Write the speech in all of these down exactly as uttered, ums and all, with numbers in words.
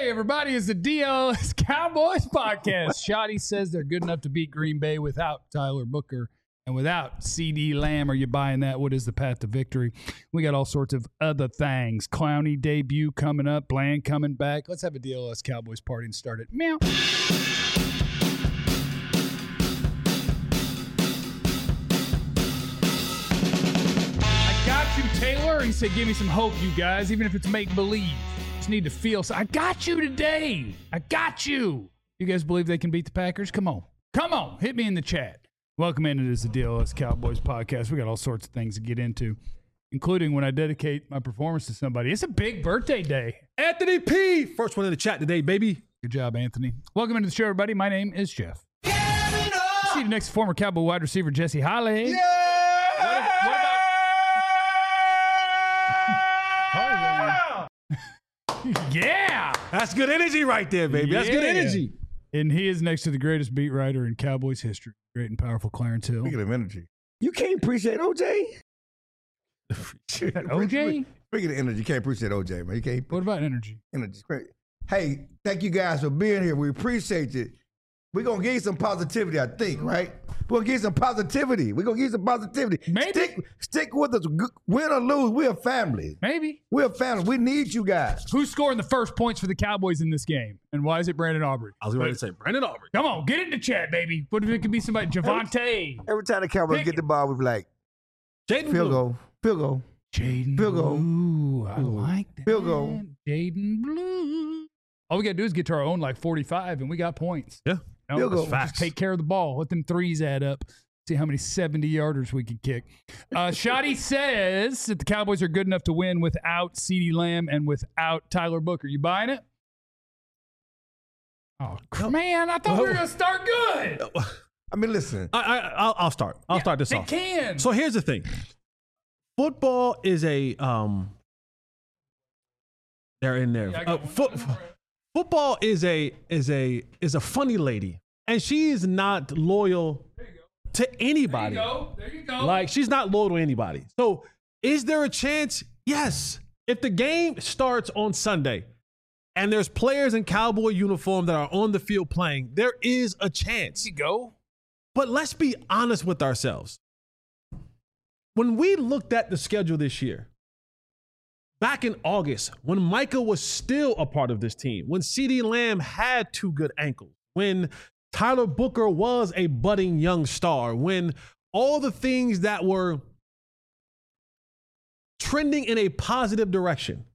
Hey, everybody, it's the D L S Cowboys podcast. Shoddy says they're good enough to beat Green Bay without Tyler Booker and without CeeDee Lamb. Are you buying that? What is the path to victory? We got all sorts of other things. Clowney debut coming up. Bland coming back. Let's have a D L S Cowboys party and start it. Meow. I got you, Taylor. He said, give me some hope, you guys, even if it's make-believe. Just need to feel. So I got you today. I got you. You guys believe they can beat the Packers? Come on. Come on. Hit me in the chat. Welcome in. It is the D L S Cowboys podcast. We got all sorts of things to get into, including when I dedicate my performance to somebody. It's a big birthday day. Anthony P. First one in the chat today, baby. Good job, Anthony. Welcome into the show, everybody. My name is Jeff. See you next to former Cowboy wide receiver Jesse Holley. Yeah! What, what about... Yeah! That's good energy right there, baby. That's Yeah. good energy. And he is next to the greatest beat writer in Cowboys history. Great and powerful Clarence Hill. Speaking of energy, you can't appreciate O J. O J? Speaking of energy, you can't appreciate O J, man. You can't. What about energy? Energy. Great. Hey, thank you guys for being here. We appreciate it. We're going to give you some positivity, I think, right? We're going to give you some positivity. We're going to give you some positivity. Maybe. Stick, stick with us. Win or lose, we're a family. Maybe. We're a family. We need you guys. Who's scoring the first points for the Cowboys in this game? And why is it Brandon Aubrey? I was going to say Brandon Aubrey. Come on, get in the chat, baby. What if it could be somebody? Javante. Every time the Cowboys Pick get it. the ball, we be like, Jaden field Blue. goal, field goal, Jaden Field goal. Blue. I Field goal. like that. Field goal. Jaden Blue. All we got to do is get to our own like forty-five, and we got points. Yeah. No, Field goal. just Facts. take care of the ball. Let them threes add up. See how many seventy-yarders we can kick. Uh, Shoddy says that the Cowboys are good enough to win without CeeDee Lamb and without Tyler Booker. You buying it? Oh, man, I thought we were going to start good. I mean, listen. I, I, I'll, I'll start. I'll Yeah, start this they off. can. So here's the thing. Football is a um. They're in there. Yeah, I Uh, got foot, one. football is a is a is a funny lady, and she is not loyal to There you anybody. go. There you go. Like, she's not loyal to anybody. So, is there a chance? Yes. If the game starts on Sunday and there's players in Cowboy uniform that are on the field playing, there is a chance. There you go. But let's be honest with ourselves. When we looked at the schedule this year, back in August, when Micah was still a part of this team, when CeeDee Lamb had two good ankles, when Tyler Booker was a budding young star, when all the things that were trending in a positive direction,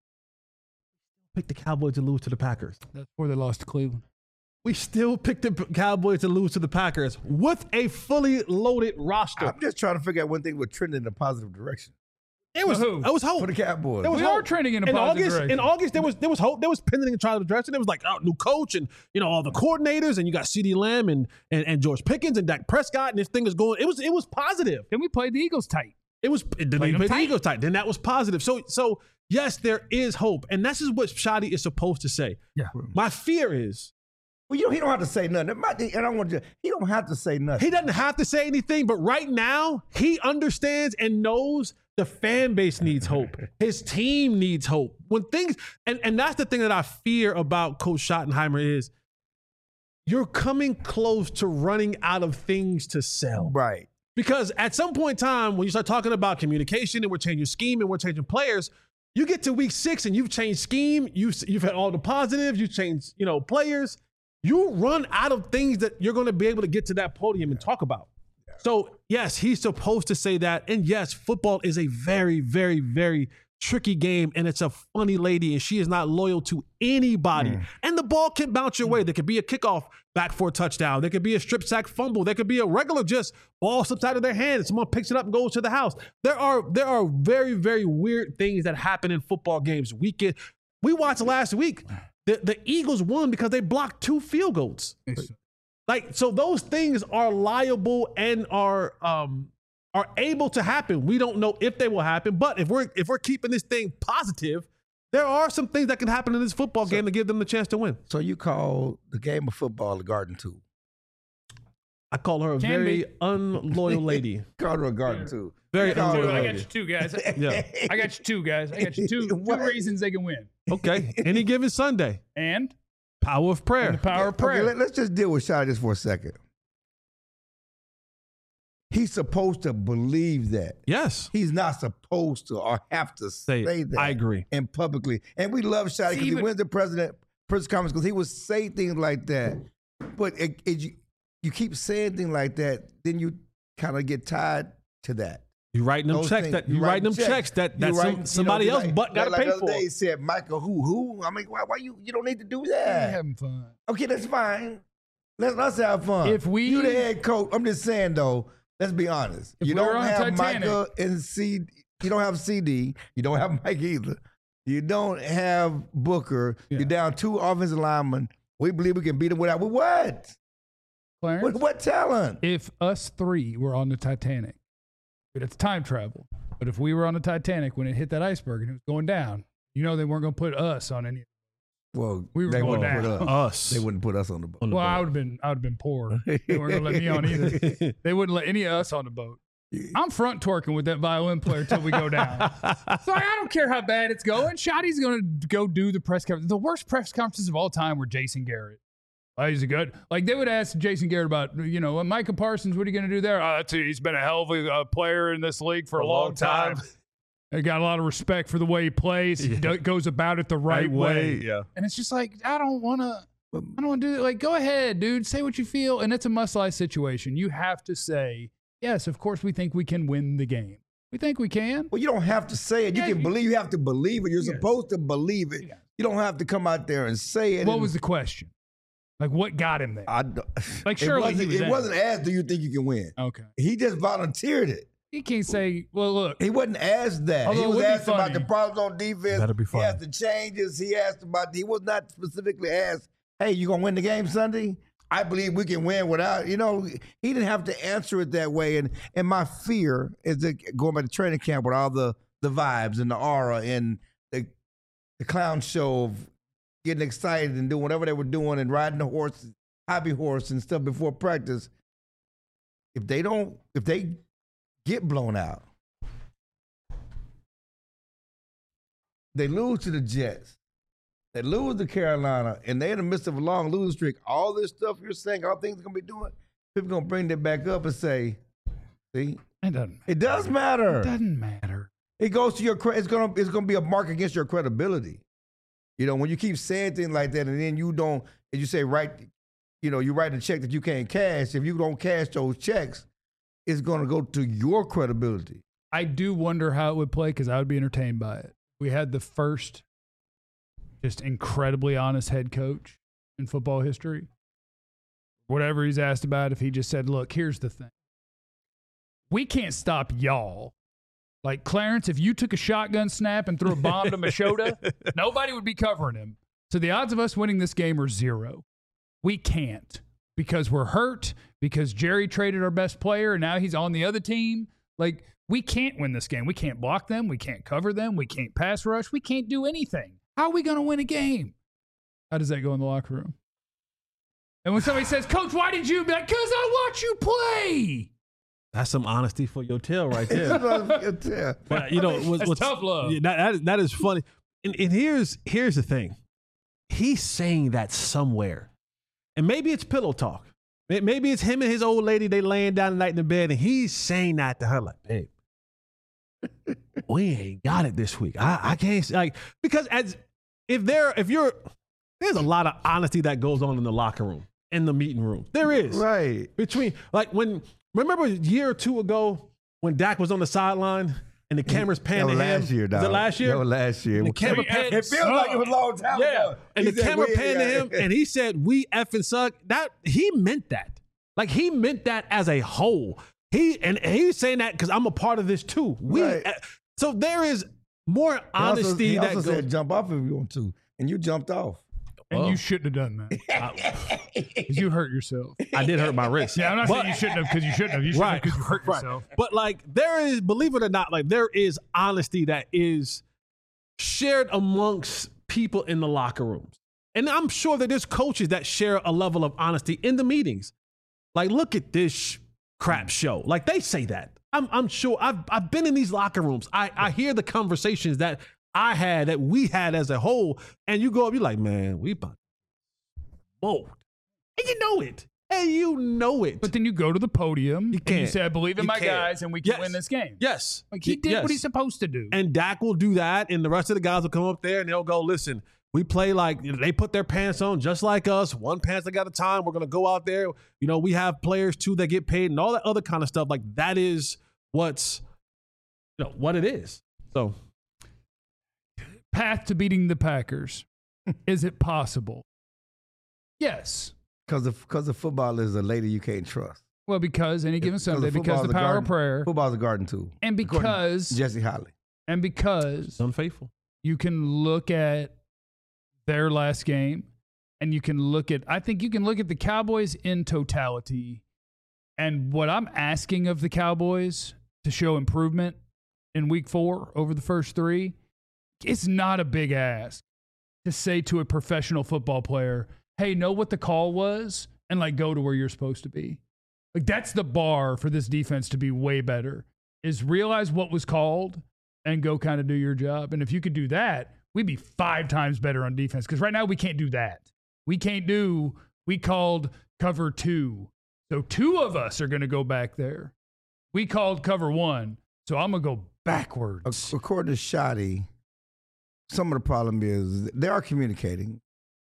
picked the Cowboys to lose to the Packers. That's before they lost to Cleveland. We still picked the Cowboys to lose to the Packers with a fully loaded roster. I'm just trying to figure out one thing with trending in a positive direction It was, For who? it was hope. for the Cowboys. There was We hope. are trending in a in positive August, direction. In August, there was there was hope. There was pending in a positive direction. There was like, oh, new coach and you know all the coordinators, and you got CeeDee Lamb and, and and George Pickens and Dak Prescott, and this thing is going. It was it was positive. Then we played the Eagles tight. It was it didn't Played even them play the tight. Eagles tight. Then that was positive. So so yes, there is hope, and this is what Shoddy is supposed to say. Yeah. My fear is Well, you know, he don't have to say nothing. It might- And I want to. He don't have to say nothing. he doesn't have to say anything, but right now he understands and knows the fan base needs hope. His team needs hope. When things and, and that's the thing that I fear about Coach Schottenheimer is you're coming close to running out of things to sell. Right. Because at some point in time, when you start talking about communication and we're changing scheme and we're changing players, you get to week six and you've changed scheme, you've, you've had all the positives, you've changed, you know, players. You run out of things that you're going to be able to get to that podium and talk about. So, yes, he's supposed to say that. And yes, football is a very, very, very tricky game. And it's a funny lady, and she is not loyal to anybody. Mm. And the ball can bounce your way. There could be a kickoff back for a touchdown. There could be a strip sack fumble. There could be a regular just ball slips out of their hand and someone picks it up and goes to the house. There are there are very, very weird things that happen in football games. We can, we watched last week. The, the Eagles won because they blocked two field goals. Like, so those things are liable and are um are able to happen. We don't know if they will happen, but if we're if we're keeping this thing positive, there are some things that can happen in this football game to give them the chance to win. So you call the game of football the Garden Tool. I call her a Can very be. unloyal lady. Call her a Garden Tool. Very Call her unloyal a I lady. got you two guys. Yeah. I got you two guys. I got you two, two What? reasons they can win. Okay. Any given Sunday. And Power of prayer. and the power of prayer. Okay, let, let's just deal with Shotty just for a second. He's supposed to believe that. Yes. He's not supposed to or have to Say, say that. I agree. And publicly. And we love Shotty because he even- wins the president press conference because he would say things like that. But it, it, you, you keep saying things like that, then you kind of get tied to that. You writing them Those checks things. that you, You writing them write checks, that You that write- some, you know, somebody else like, but got to like pay the other for. day he said, Michael, who, who? I mean, why, why you, you don't need to do We're that. having fun. Okay, that's fine. Let's, let's have fun. If we- you the head coach, I'm just saying though, let's be honest. If You we were don't on have Titanic- Micah and C. You don't have C D. You don't have Mike either. You don't have Booker. Yeah. You're down two offensive linemen. We believe we can beat them without with what? Clarence, What, what talent? if us three were on the Titanic, but it's time travel. But if we were on the Titanic when it hit that iceberg and it was going down, you know they weren't going to put us on any. Well, We were they going wouldn't down. put us. Us. They wouldn't put us on the boat. On the Well, I boat. would have been, I would have been poor. They weren't going to let me on either. They wouldn't let any of us on the boat. I'm front twerking with that violin player until we go down. So I don't care how bad it's going. Shotty's going to go do the press conference. The worst press conferences of all time were Jason Garrett. Oh, he's a good. Like they would ask Jason Garrett about, you know, Micah Parsons. What are you going to do there? Oh, that's it. He's been a hell of a uh, player in this league for a, long time. I got a lot of respect for the way he plays. He do- goes about it the right, way. Yeah. And it's just like I don't want to. I don't want to do it. Like, go ahead, dude. Say what you feel. And it's a must-lie situation. You have to say, yes, of course, we think we can win the game. We think we can. Well, you don't have to say it. You Yeah, can you- believe. You have to believe it. You're Yes. supposed to believe it. Yes. You don't have to come out there and say it. What and- was the question? Like, what got him there? I, don't- Like, it surely he wasn't, was it in. wasn't asked, do you think you can win? Okay. He just volunteered it. He can't say, well, look, He wasn't asked that. Although he it was would be asked about funny. the problems on defense. That'd be He funny. asked the changes. He asked about, he was not specifically asked, hey, you going to win the game Sunday? I believe we can win without, you know, he didn't have to answer it that way. And and my fear is that going back to training camp with all the, the vibes and the aura and the, the clown show of getting excited and doing whatever they were doing and riding the horse, hobby horse and stuff before practice. If they don't, if they get blown out, they lose to the Jets. They lose to Carolina, and they're in the midst of a long losing streak. All this stuff you're saying, all things they're going to be doing, people going to bring that back up and say, see, it doesn't, it does matter. it doesn't matter. It goes to your, cre- it's going to it's going to be a mark against your credibility. You know, when you keep saying things like that and then you don't, and you say, right, you know, you write a check that you can't cash. If you don't cash those checks, it's going to go to your credibility. I do wonder how it would play because I would be entertained by it. We had the first just incredibly honest head coach in football history. Whatever he's asked about, if he just said, look, here's the thing. We can't stop y'all. Like, Clarence, if you took a shotgun snap and threw a bomb to Machota, nobody would be covering him. So the odds of us winning this game are zero. We can't because we're hurt, because Jerry traded our best player and now he's on the other team. Like, we can't win this game. We can't block them. We can't cover them. We can't pass rush. We can't do anything. How are we going to win a game? How does that go in the locker room? And when somebody says, Coach, why did you? Be like, because I watch you play. That's some honesty for your tail right there. Yeah. But you know, what's, That's what's, tough love. yeah, that, that, is- that is funny. And, and here's here's the thing. He's saying that somewhere. And maybe it's pillow talk. May- Maybe it's him and his old lady, they laying down the night in the bed, and he's saying that to her like, babe, we ain't got it this week. I, I can't, like, because as if there, if you're, there's a lot of honesty that goes on in the locker room, in the meeting room. There is. Right. Between, like, when, remember a year or two ago when Dak was on the sideline and the cameras panned That to was him? last year, dog. Was it last year? That was last year. And the camera We pan- It feels like it was a long time yeah. ago. And He the said, camera "We- panned to him and he said, we effing suck. That, he meant that. Like, he meant that as a whole. He, and he's saying that because I'm a part of this too. We, Right. uh, so there is more He also- honesty he that also goes. said jump off if you want to, and you jumped off. And Oh. you shouldn't have done that. Because you hurt yourself. I did hurt my wrist. Yeah, I'm not But- saying you shouldn't have because you shouldn't have. You shouldn't Right, have because you hurt right. yourself. But like there is, believe it or not, like there is honesty that is shared amongst people in the locker rooms. And I'm sure that there's coaches that share a level of honesty in the meetings. Like, look at this sh- crap show. Like they say that. I'm, I'm sure I've, I've been in these locker rooms. I, I hear the conversations that I had, that we had as a whole, and you go up, you're like, man, we about whoa. And you know it. And you know it. But then you go to the podium You and you can't. say, I believe in You my can't. guys and we can Yes. win this game. Yes. Like he did Yes. what he's supposed to do. And Dak will do that, and the rest of the guys will come up there and they'll go, listen, we play like, you know, they put their pants on just like us, one pants at a time. We're going to go out there. You know, we have players too that get paid and all that other kind of stuff. Like that is what's, you know, what it is. So. Path to beating the Packers. Is it possible? Yes. Because the, because the football is a lady you can't trust. Well, because any given Sunday, the because the football's a power garden- of prayer, Football's a garden tool. and According to because Jesse Holly. and because It's unfaithful. you can look at their last game, and you can look at, I think you can look at the Cowboys in totality, and what I'm asking of the Cowboys to show improvement in week four over the first three, it's not a big ask to say to a professional football player, hey, know what the call was and like go to where you're supposed to be. Like that's the bar for this defense to be way better, is realize what was called and go kind of do your job. And if you could do that, we'd be five times better on defense. Because right now we can't do that. We can't do, we called cover two. So two of us are going to go back there. We called cover one. So I'm going to go backwards. According to Shoddy, some of the problem is they are communicating,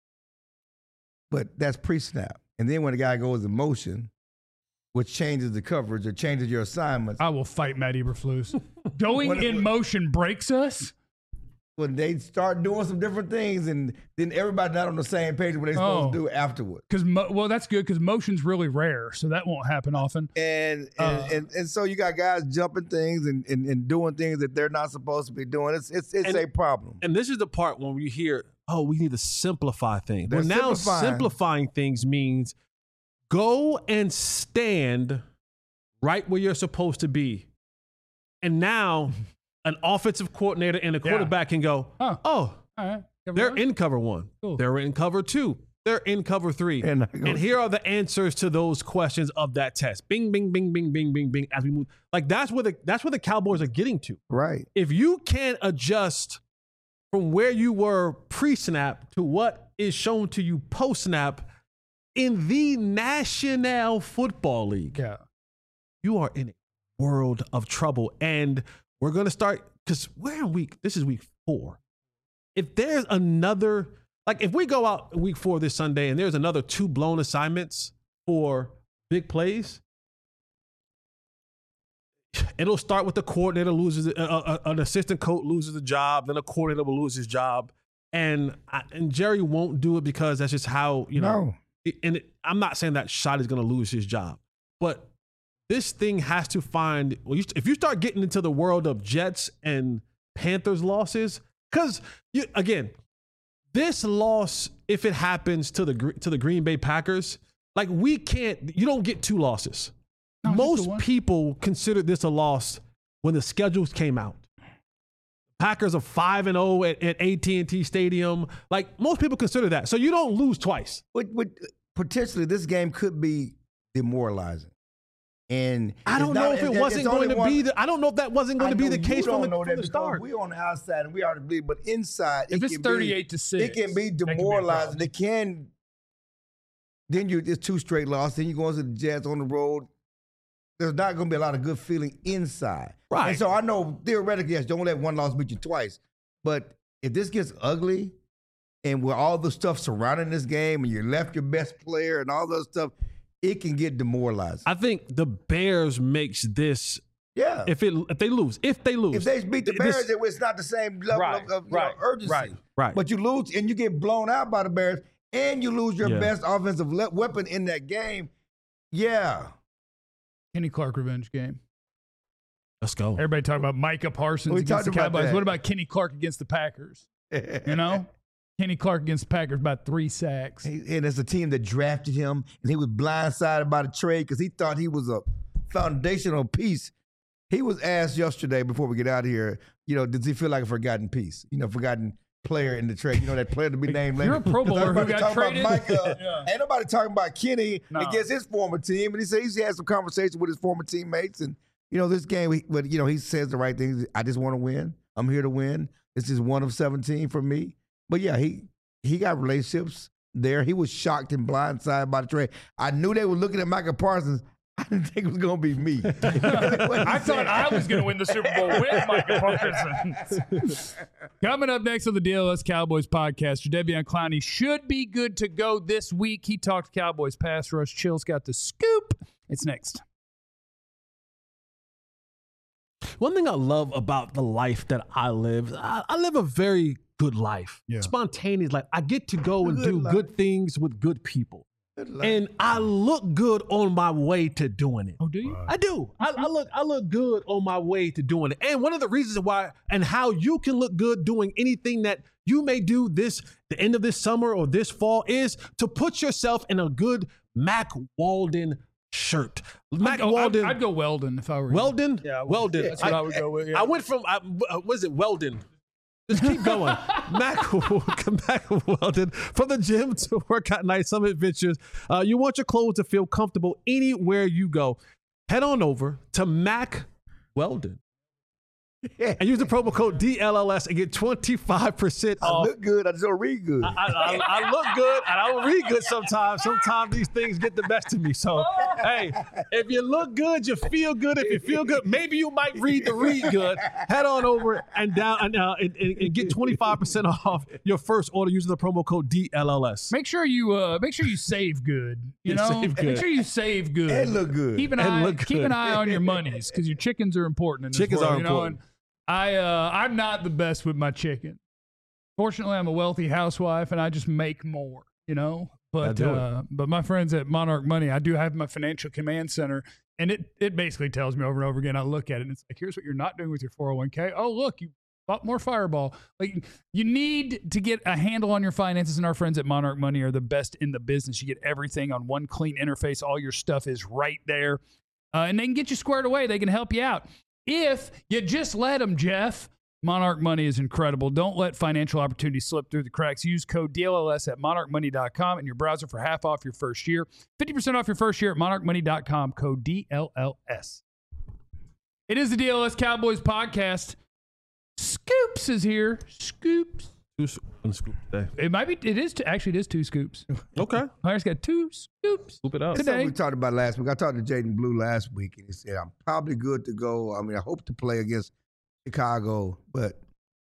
but that's pre-snap. And then when the guy goes in motion, which changes the coverage or changes your assignments, I will fight Matt Eberflus. Going When- in motion breaks us. when they start doing some different things, and then everybody's not on the same page what they're supposed Oh. to do afterward. Because mo- well, that's good because motion's really rare, so that won't happen often. And and, Uh. and and so you got guys jumping things and, and, and doing things that they're not supposed to be doing. It's it's it's And- a problem. And this is the part when you hear, oh, we need to simplify things. They're Well, now simplifying. simplifying things means go and stand right where you're supposed to be. And now an offensive coordinator and a Yeah. quarterback can go, Huh. oh, All right. they're in cover one. Cool. They're in cover two. They're in cover three. And, And here are the answers to those questions of that test. Bing, bing, bing, bing, bing, bing, bing. As we move, like that's where the that's where the Cowboys are getting to. right. If you can't adjust from where you were pre-snap to what is shown to you post-snap in the National Football League, Yeah. you are in a world of trouble. And we're going to start, because we're in week, this is week four. If there's another, like if we go out week four this Sunday and there's another two blown assignments for big plays, it'll start with the coordinator loses, uh, uh, an assistant coach loses a job, then a coordinator will lose his job. And I, and Jerry won't do it because that's just how, you know, No. it- and it, I'm not saying that Shot is going to lose his job, but this thing has to find, well, you, if you start getting into the world of Jets and Panthers losses, because again, this loss, if it happens to the Gre- to the Green Bay Packers, like we can't, you don't get two losses. No, just the Most one. people considered this a loss when the schedules came out. Packers are five and zero at at A T and T Stadium. Like most people consider that, so you don't lose twice. But, but potentially this game could be demoralizing. And I don't it's know not- if it it's- wasn't it's going only to one- be. The, I don't know if that wasn't going I to be know the you case don't from the, know from that the because start. We're on the outside and we already believe, but inside, If it it's can thirty-eight be, to six, it can be that can be a demoralizing. problem. It can. Then you it's two straight losses. Then you go into the Jets on the road. There's not going to be a lot of good feeling inside. Right. And so I know theoretically, yes, don't let one loss beat you twice. But if this gets ugly, and with all the stuff surrounding this game, and you left your best player and all that stuff, it can get demoralizing. I think the Bears makes this yeah. if it if they lose if they lose If they beat the this- Bears, it- it's not the same level Right, of, of you right, know, urgency. right, right. But you lose and you get blown out by the Bears, and you lose your Yeah. best offensive le- weapon in that game. Yeah. Kenny Clark revenge game. Let's go. Everybody talking about Micah Parsons We against the talked about Cowboys. that. What about Kenny Clark against the Packers? You know? Kenny Clark against the Packers, about three sacks. He- and it's a team that drafted him, and he was blindsided by the trade because he thought he was a foundational piece. He was asked yesterday before we get out of here, you know, does he feel like a forgotten piece? You know, forgotten player in the trade. You know, that player to be named later. You're a Pro Bowler who Everybody got talking traded. About Micah. Yeah. Ain't nobody talking about Kenny No. against his former team. And he said he's had some conversation with his former teammates. And, you know, this game, he, but, you know, he says the right things. I just want to win. I'm here to win. This is one of seventeen for me. But yeah, he he got relationships there. He was shocked and blindsided by the trade. I knew they were looking at Micah Parsons. I didn't think it was going to be me. I thought I was going to win the Super Bowl with Micah Parsons. Coming up next on the D L S Cowboys podcast, Jadeveon Clowney should be good to go this week. He talked Cowboys pass rush. Chill's got the scoop. It's next. One thing I love about the life that I live, I, I live a very good life, Yeah. spontaneous life. I get to go and Good do life. good things with good people. Good luck. And I look good on my way to doing it. Oh, do you? I do. I, I look. I look good on my way to doing it. And one of the reasons why and how you can look good doing anything that you may do this the end of this summer or this fall is to put yourself in a good Mac Weldon shirt. Mac I'd go, Weldon. I'd, I'd go Weldon if I were you. Weldon. Yeah, I would. Weldon. That's what I, would go with. Yeah. I went from. I, uh, was it Weldon? Just keep going. Mac, Mac Weldon, from the gym to workout night, some adventures. Uh, you want your clothes to feel comfortable anywhere you go. Head on over to Mac Weldon and use the promo code D L L S and get twenty-five percent I off. look good. I just don't read good. I, I, I look good and I don't read good sometimes. Sometimes these things get the best of me. So, hey, if you look good, you feel good. If you feel good, maybe you might read the read good. Head on over and down and, uh, and, and, and get twenty-five percent off your first order using the promo code D L L S. Make sure you uh, make sure you save good. You Yeah, know, save good. make sure you save good And look good. Keep an And eye look keep good. an eye on your monies because your chickens are important. In this Chickens world, are you know? important. And I uh, I'm not the best with my chicken. Fortunately, I'm a wealthy housewife and I just make more. You know, but do it. uh, but my friends at Monarch Money, I do have my financial command center, and it it basically tells me over and over again. I look at it and it's like, here's what you're not doing with your four oh one k. Oh, look, you bought more Fireball. Like, you need to get a handle on your finances, and our friends at Monarch Money are the best in the business. You get everything on one clean interface. All your stuff is right there, uh, and they can get you squared away. They can help you out if you just let them, Jeff. Monarch Money is incredible. Don't let financial opportunities slip through the cracks. Use code D L L S at monarch money dot com in your browser for half off your first year. fifty percent off your first year at monarch money dot com, code D L L S. It is the D L S Cowboys podcast. Scoops is here. Scoops. Two s- one scoop today. It might be, it is, two, actually, it is two scoops. Okay. Myers got two scoops. Scoop it up. Today. Something we talked about last week. I talked to Jaden Blue last week, and he said, I'm probably good to go. I mean, I hope to play against Chicago, but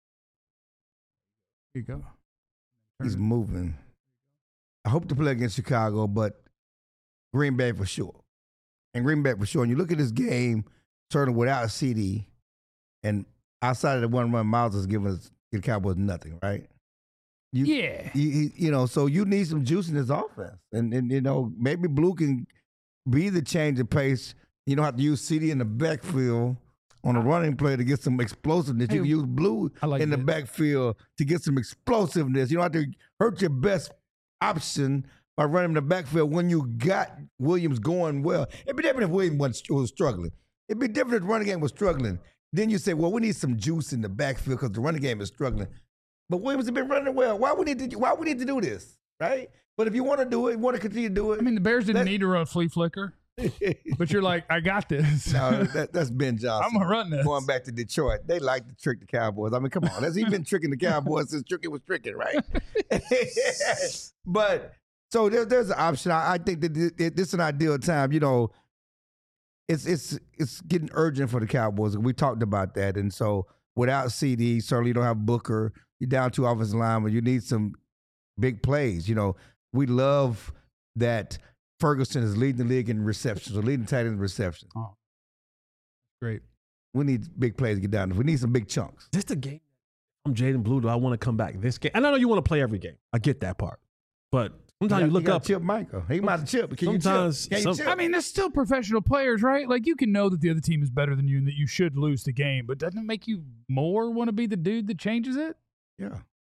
Here you go. he's moving. I hope to play against Chicago, but Green Bay for sure. And Green Bay for sure. And you look at this game, certainly without C D, and outside of the one run, Miles is giving us the Cowboys nothing, right? You, Yeah. You, you- you know, so you need some juice in this offense. And, and you know, maybe Blue can be the change of pace. You don't have to use C D in the backfield on a running play to get some explosiveness. Hey, you can use Blue I like in the that. backfield to get some explosiveness. You don't have to hurt your best option by running in the backfield when you got Williams going well. It'd be different if Williams was, was struggling. It'd be different if the running game was struggling. Then you say, well, we need some juice in the backfield because the running game is struggling. But Williams has been running well. Why we need to? Why we need to do this, right? But if you want to do it, you want to continue to do it. I mean, the Bears didn't That- need to run flea flicker, but you're like, I got this. no, that, that's Ben Johnson. I'm going to run this. Going back to Detroit, they like to trick the Cowboys. I mean, come on, has he been tricking the Cowboys since tricking was tricking, right? But so there, there's an option. I, I think that this, this is an ideal time. You know, it's it's it's getting urgent for the Cowboys. We talked about that, and so without C D, certainly you don't have Booker. You're down two offensive linemen. You need some big plays. You know, we love that Ferguson is leading the league in receptions or leading tight end in receptions. Oh, great. We need big plays to get down. We need some big chunks. Is this the game? I'm Jaden Blue. Do I want to come back this game? And I know you want to play every game. I get that part. But sometimes you, look gotta up. Chip Michael. He might have chip. Can Sometimes you chip? Can you some- chip? I mean, they're still professional players, right? Like, you can know that the other team is better than you and that you should lose the game, but doesn't it make you more want to be the dude that changes it? yeah.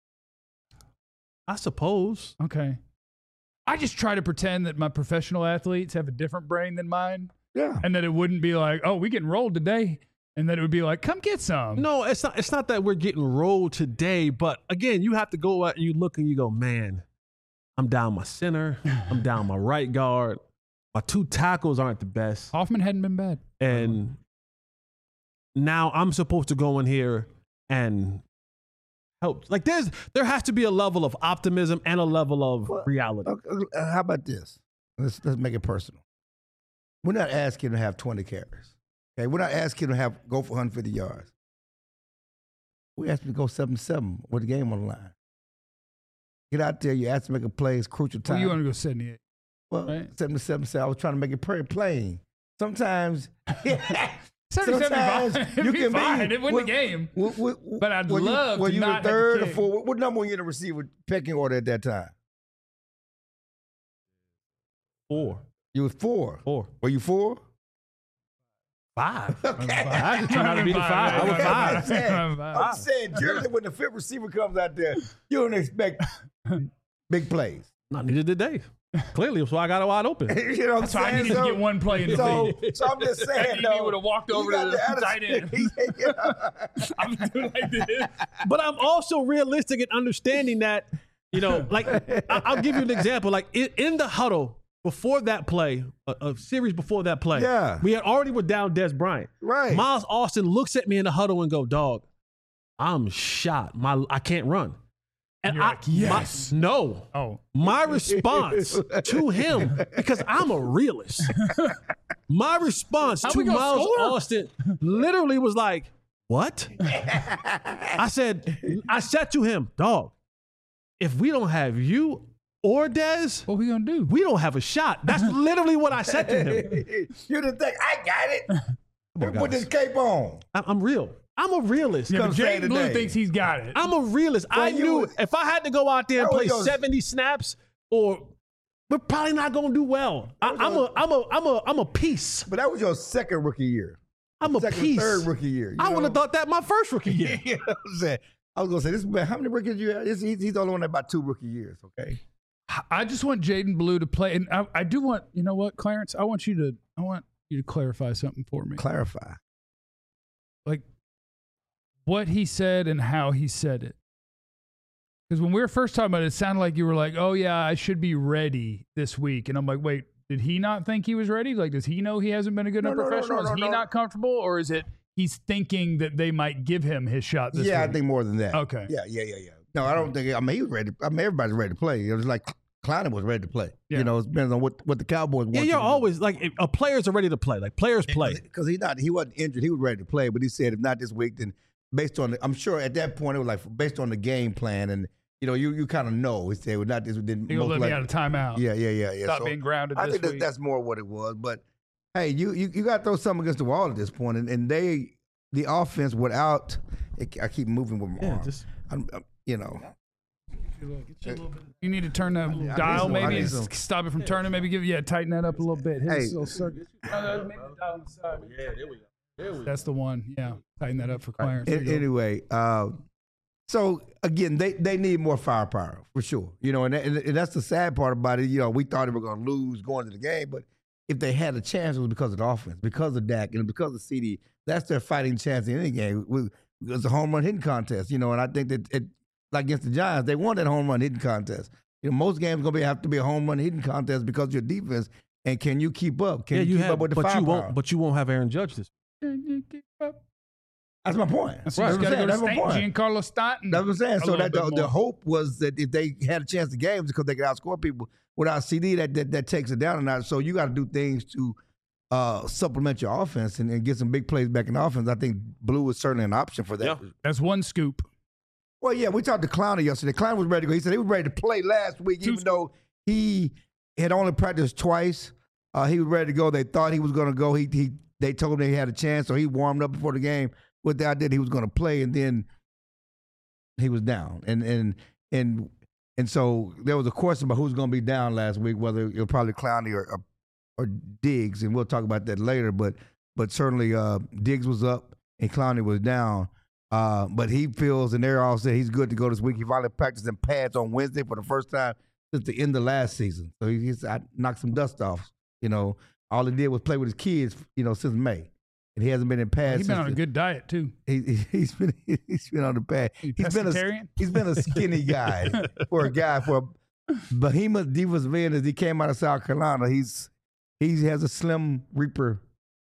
I suppose. Okay. I just try to pretend that my professional athletes have a different brain than mine, Yeah. and that it wouldn't be like, oh, we getting rolled today, and that it would be like, come get some. No, it's not. It's not that we're getting rolled today. But again, you have to go out and you look and you go, man, I'm down my center. I'm down my right guard. My two tackles aren't the best. Hoffman hadn't been bad. And now I'm supposed to go in here and helped. Like there's there has to be a level of optimism and a level of Well, reality. Okay, uh, how about this? Let's let's make it personal. We're not asking to have twenty carries. Okay, we're not asking to have go for one hundred fifty yards. We asked him to go seven seven with the game on the line. Get out there. You asked him to make a play. It's crucial time. Well, you want to go seventy-eight. Well, right? seventy-seven. So I was trying to make it pretty plain. Sometimes, seventy-seven, you can fine. be. It win what- the game. what- what- But I'd were you- love were to you not have the to third or kick. fourth? What, what number were you in the receiver pecking order at that time? Four. You was four. Four. Were you four? Five. Okay. I just turned out to be the five. I was Okay, five. I'm saying, Five. I'm saying generally when the fifth receiver comes out there, you don't expect big plays. No, neither did they. Clearly, so I got it wide open. You know what I'm So I saying? needed to get one play in the so, lead. so I'm just saying, He though, would have walked you over got to the the tight end. attitude. You know? I'm doing like this. But I'm also realistic in understanding that, you know, like I- I'll give you an example. Like in, in the huddle before that play, a, a series before that play, Yeah. we had already were down Des Bryant. Right. Miles Austin looks at me in the huddle and go, "Dog, I'm shot. My I can't run." And You're I, like, yes. my, no. Oh, My response to him, because I'm a realist, my response How to we gonna Miles score? Austin literally was like, "What?" I said, I said to him, "Dog, if we don't have you or Dez, what we gonna do? we don't have a shot." That's literally what I said to him. You didn't think, I got it. on, Put guys. this cape on. I- I'm real. I'm a realist. Yeah, but come say Jaden Blue today. thinks he's got it. I'm a realist. I you knew was- if I had to go out there and That was play your- seventy snaps, or we're probably not gonna do well. I, I'm a, I'm a, I'm a, I'm a piece. But that was your second rookie year. I'm a Second, piece. third rookie year. You I would know? have thought that my first rookie year. You know what I'm saying? I was gonna say this. Man, how many rookies you have? This, he's, he's the only one that about two rookie years. Okay. I just want Jaden Blue to play, and I, I do want, you know what, Clarence? I want you to, I want you to clarify something for me. Clarify. Like what he said and how he said it. Because when we were first talking about it, it sounded like you were like, "Oh yeah, I should be ready this week," and I'm like, "Wait, did he not think he was ready? Like, does he know he hasn't been a good No, enough no, no, professional? no, no, is he no. not comfortable, or is it he's thinking that they might give him his shot this Yeah, week?" I think more than that. Okay. Yeah, yeah, yeah, yeah. No, I don't think. I mean, he was ready. I mean, everybody's ready to play. It was like Clowney was ready to play. Yeah. You know, it depends on what, what the Cowboys want. Yeah, you you're to do. always like if, uh, players are ready to play. Like players play. because he not he wasn't injured. He was ready to play, but he said if not this week, then based on the, I'm sure at that point it was like based on the game plan, and you know you you kind of know. He said well, not this. Then He'll most let me likely- out of timeout. Yeah, yeah, yeah, yeah. Stop So being grounded I this think that, week. that's more what it was. But hey, you you, you got to throw something against the wall at this point, and, and they the offense without. It, I keep moving with my Yeah, arm. just I'm, I'm, you know. You need to turn the need dial, some- I maybe need and some. s- stop it from turning. Maybe give yeah, tighten that up a little bit. Hit Hey. this little circuit. Uh, maybe the dial on the side. Yeah, there we go. That's the one. Yeah, tighten that up for Clarence. There An- you go. anyway, uh, so again, they, they need more firepower for sure. You know, and, that, and that's the sad part about it. You know, we thought they were going to lose going to the game, but if they had a chance, it was because of the offense, because of Dak, and because of C D. That's their fighting chance in any game. It was a home run hitting contest, you know, and I think that it, like against the Giants, they won that home run hitting contest. You know, most games going to be have to be a home run hitting contest because of your defense. And can you keep up? Can yeah, you, you keep have, up with the but you firepower? won't. But you won't have Aaron Judge this. That's my point. That's That's right. what I'm Got to saying. go to That's my Stanton, point. Giancarlo Stanton. That's what I'm saying. A So little that the, bit the more. hope was that if they had a chance to games because they could outscore people without C D, that that, that takes it down a notch. So you got to do things to uh, supplement your offense and, and get some big plays back in the offense. I think Blue is certainly an option for that. Yeah. That's one scoop. Well, yeah, we talked to Clowney yesterday. Clowney was ready to go. He said he was ready to play last week, Two even though he had only practiced twice. Uh, he was ready to go. They thought he was going to go. He he they told him he had a chance, so he warmed up before the game with the idea that he was going to play, and then he was down. And and and and so there was a question about who's going to be down last week, whether it was probably Clowney or, or or Diggs, and we'll talk about that later. But but certainly uh, Diggs was up and Clowney was down. Uh, but he feels, and they're all saying he's good to go this week. He finally practiced in pads on Wednesday for the first time since the end of last season. So he, he's I knocked some dust off. You know, all he did was play with his kids. You know, since May, and he hasn't been in pads. He's been since on a the- good diet too. He, he- he's been he's been on the pad. You He's been a pescatarian? he's been a skinny guy for a guy for a behemoth defensive end as he came out of South Carolina. He's he has a slim Reaper type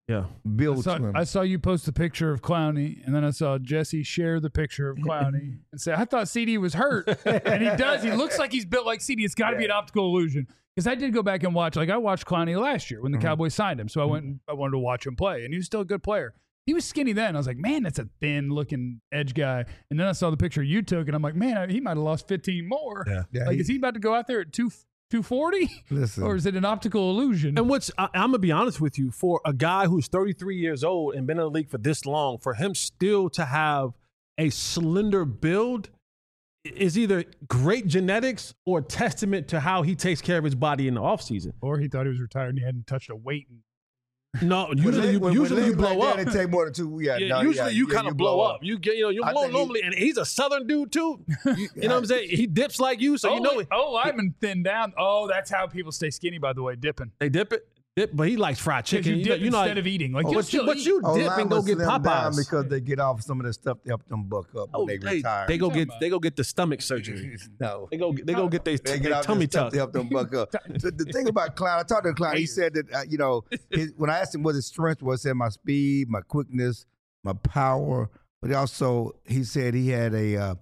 Yeah. built I saw, to him. I saw you post a picture of Clowney, and then I saw Jesse share the picture of Clowney and say, I thought C D was hurt. And he does. He looks like he's built like C D. It's got to yeah. be an optical illusion. Because I did go back and watch. Like, I watched Clowney last year when the mm-hmm. Cowboys signed him. So I went and I wanted to watch him play. And he was still a good player. He was skinny then. I was like, man, that's a thin-looking edge guy. And then I saw the picture you took, and I'm like, man, he might have lost fifteen more. Yeah. Yeah, like, he, is he about to go out there at two forty? Listen. Or is it an optical illusion? And what's I, I'm going to be honest with you, for a guy who's thirty-three years old and been in the league for this long, for him still to have a slender build is either great genetics or testament to how he takes care of his body in the offseason. Or he thought he was retired and he hadn't touched a weight in No, usually you, when, usually when you blow like up. That, it take more than two. Yeah, yeah no, usually yeah, you yeah, kind of you blow up. up. You get, you know, you I normally, he, and he's a Southern dude too. You, you know what I'm saying? He dips like you, so oh, you know. Oh, I've been thinned down. Oh, that's how people stay skinny. By the way, dipping. They dip it. Dip, but he likes fried chicken. You dip you know, instead you know, of eating. Like, oh, you but you, but eat. you oh, dip and go get Popeyes because they get off some of the stuff to help them buck up oh, when they, they retire. They go get about? they go get the stomach surgery. no, they go they go get their, they get their off tummy tuck tuck to help them buck up. the, the thing about Clown, I talked to Clown. He said that uh, you know his, when I asked him what his strength was, he said my speed, my quickness, my power, but he also he said he had a uh,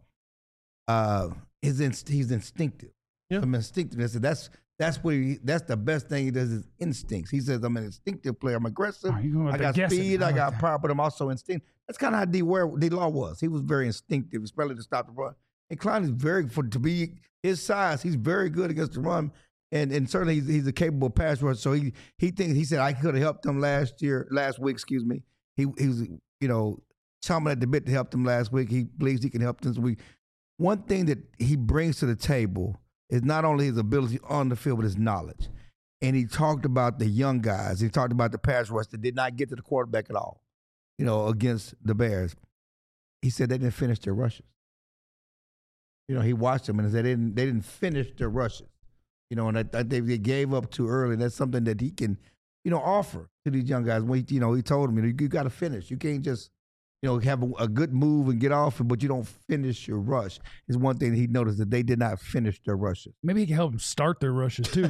uh, his inst- he's instinctive. Yeah. Some instinctiveness. And that's That's what he, that's the best thing he does is instincts. He says, I'm an instinctive player. I'm aggressive. Oh, I got speed. I, I got like power, but I'm also instinct. That's kind of how D. Ware, D. Law was. He was very instinctive, especially to stop the run. And Klein is very, for to be his size, he's very good against the run. And and certainly he's, he's a capable pass rusher. So he he thinks, he said, I could have helped him last year, last week, excuse me. He, he was, you know, chomping at the bit to help him last week. He believes he can help them this week. One thing that he brings to the table is not only his ability on the field, but his knowledge. And he talked about the young guys. He talked about the pass rush that did not get to the quarterback at all, you know, against the Bears. He said they didn't finish their rushes. You know, he watched them and said they didn't, they didn't finish their rushes. You know, and I, I think they gave up too early. That's something that he can, you know, offer to these young guys. When he, you know, he told them, you know, you, you got to finish. You can't just, you know, have a, a good move and get off, but you don't finish your rush. Is one thing he noticed that they did not finish their rushes. Maybe he can help them start their rushes too.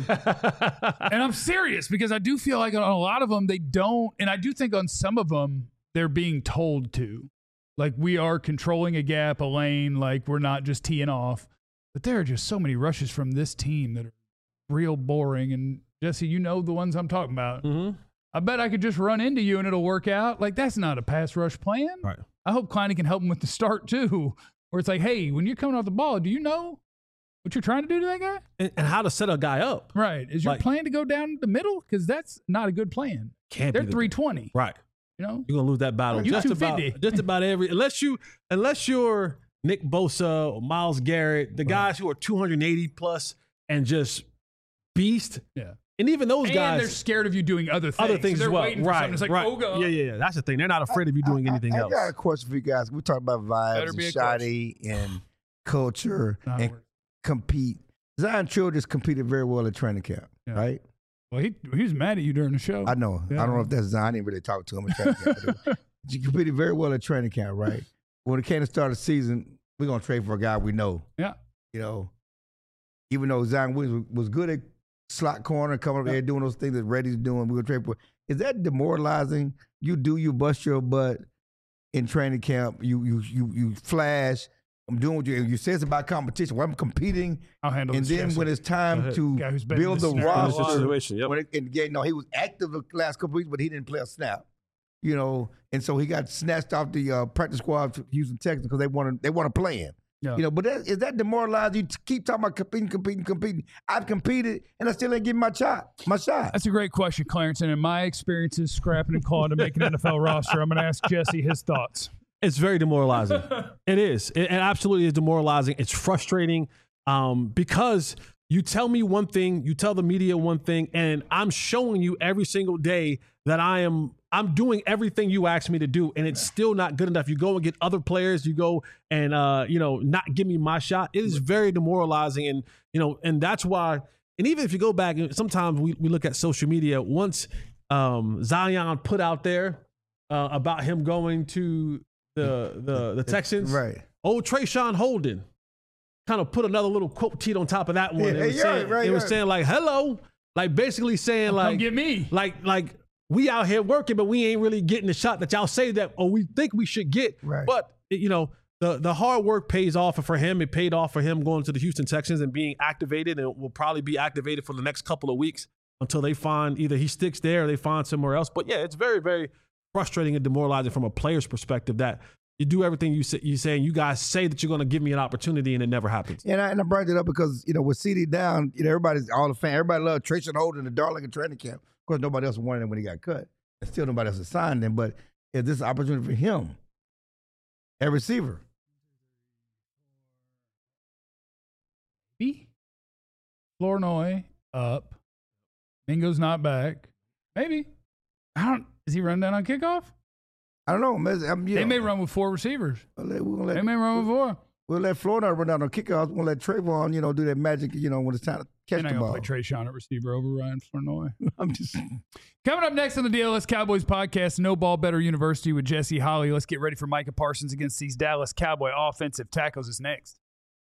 And I'm serious because I do feel like on a lot of them they don't, and I do think on some of them they're being told to. Like we are controlling a gap, a lane, like we're not just teeing off. But there are just so many rushes from this team that are real boring. And Jesse, you know the ones I'm talking about. Mm-hmm. I bet I could just run into you and it'll work out. Like, that's not a pass rush plan. Right. I hope Klein can help him with the start, too, where it's like, hey, when you're coming off the ball, do you know what you're trying to do to that guy? And, and how to set a guy up. Right. Is your like, plan to go down the middle? Because that's not a good plan. Can't They're be the, three twenty. Right. You know? You're going to lose that battle. You just about, two fifty. just about every – unless, you, unless you're Nick Bosa or Myles Garrett, the guys who are two eighty plus and just beast. Yeah. And even those and guys, they're scared of you doing other things. Other things so as well, right? It's like, right. oh, go. Yeah, yeah, yeah. That's the thing. They're not afraid of you doing I, anything I, I else. I got a question for you guys. We talked about vibes and shoddy and culture not and worth. compete. Zion Childress competed very well at training camp, Yeah. right? Well, he he was mad at you during the show. I know. Yeah. I don't know if that's Zion. I didn't really talk to him at training camp. But he competed very well at training camp, right? When it came to start the season, we're gonna trade for a guy we know. Yeah. You know, even though Zion Williams was good at slot corner, coming up there doing those things that Reddy's doing, we're gonna trade for. Is that demoralizing? You do you bust your butt in training camp. You you you you flash. I'm doing what you you say it's about competition. Well, I'm competing. I'll handle and this, then Jesse. when it's time to Guy who's been in build this the scenario. roster, situation, yep. when it, and again, no, he was active the last couple weeks, but he didn't play a snap. You know, and so he got snatched off the uh, practice squad for Houston Texans because they want to they want to play him. Yeah. You know, but that, is that demoralizing? You keep talking about competing, competing, competing. I've competed, and I still ain't getting my shot. My shot. That's a great question, Clarence. And in my experiences scrapping and clawing to make an N F L roster, I'm going to ask Jesse his thoughts. It's very demoralizing. It is. It, it absolutely is demoralizing. It's frustrating um, because you tell me one thing, you tell the media one thing, and I'm showing you every single day that I am I'm doing everything you asked me to do, and it's still not good enough. You go and get other players, you go and uh, you know, not give me my shot. It is very demoralizing, and you know, and that's why. And even if you go back, sometimes we, we look at social media. Once um, Zion put out there uh, about him going to the the the Texans, right? Old Trayshawn Holden kind of put another little quote tweet on top of that one. Yeah, it was, yeah, saying, right, it was right. saying like, "Hello," like basically saying Come like, get me. like like we out here working, but we ain't really getting the shot that y'all say that or we think we should get. Right. But, you know, the, the hard work pays off. And for him, it paid off for him going to the Houston Texans and being activated, and it will probably be activated for the next couple of weeks until they find either he sticks there or they find somewhere else. But, yeah, it's very, very frustrating and demoralizing from a player's perspective that you do everything you say, you say, and you guys say that you're going to give me an opportunity, and it never happens. And I, and I brought it up because, you know, with C D down, you know, everybody's all the fan, everybody loved Trace Holden, the darling of training camp. Of course, nobody else wanted him when he got cut. And still nobody else assigned him. But is this an opportunity for him, a receiver? B. Flournoy up. Mingo's not back. Maybe. I don't. Is he running down on kickoff? I don't know. I'm, you they know, may run with four receivers. We'll let, we'll let, they may run with four. We'll let Florida run down on kickoffs. We'll let Trayvon, you know, do that magic, you know, when it's time to catch and the ball. Play Trayshawn at receiver over Ryan Flournoy. I'm just coming up next on the D L S Cowboys podcast, No Ball Better University with Jesse Holley. Let's get ready for Micah Parsons against these Dallas Cowboy offensive tackles. Is next.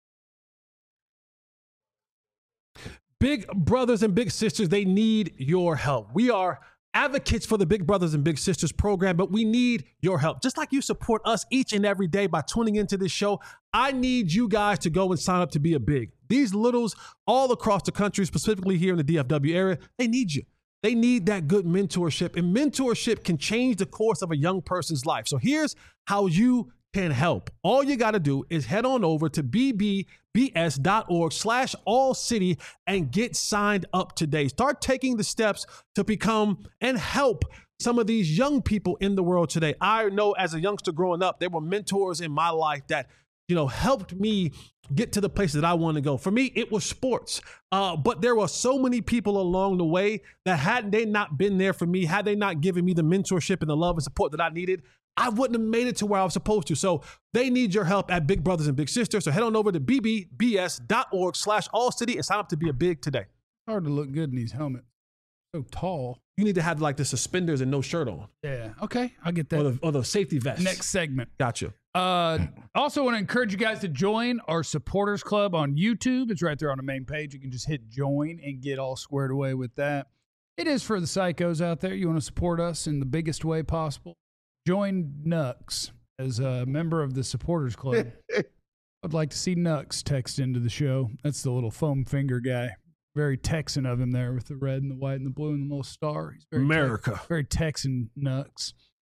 Big brothers and big sisters, they need your help. We are advocates for the Big Brothers and Big Sisters program, but we need your help. Just like you support us each and every day by tuning into this show, I need you guys to go and sign up to be a Big. These littles all across the country, specifically here in the D F W area, they need you. They need that good mentorship, and mentorship can change the course of a young person's life. So here's how you can help. All you got to do is head on over to b b b s dot org slash all city and get signed up today. Start taking the steps to become and help some of these young people in the world today. I know as a youngster growing up, there were mentors in my life that, you know, helped me get to the places that I want to go. For me, it was sports. Uh, but there were so many people along the way that had they not been there for me, had they not given me the mentorship and the love and support that I needed, I wouldn't have made it to where I was supposed to. So they need your help at Big Brothers and Big Sisters. So head on over to b b b s dot org slash all city and sign up to be a Big today. Hard to look good in these helmets. So tall. You need to have like the suspenders and no shirt on. Yeah. Okay. I'll get that. Or the, or the safety vest. Next segment. Gotcha. Uh, also want to encourage you guys to join our supporters club on YouTube. It's right there on the main page. You can just hit join and get all squared away with that. It is for the psychos out there. You want to support us in the biggest way possible. Join Nux as a member of the supporters club. I'd like to see Nux text into the show. That's the little foam finger guy. Very Texan of him there with the red and the white and the blue and the little star. He's very America. Te- very Texan Nux.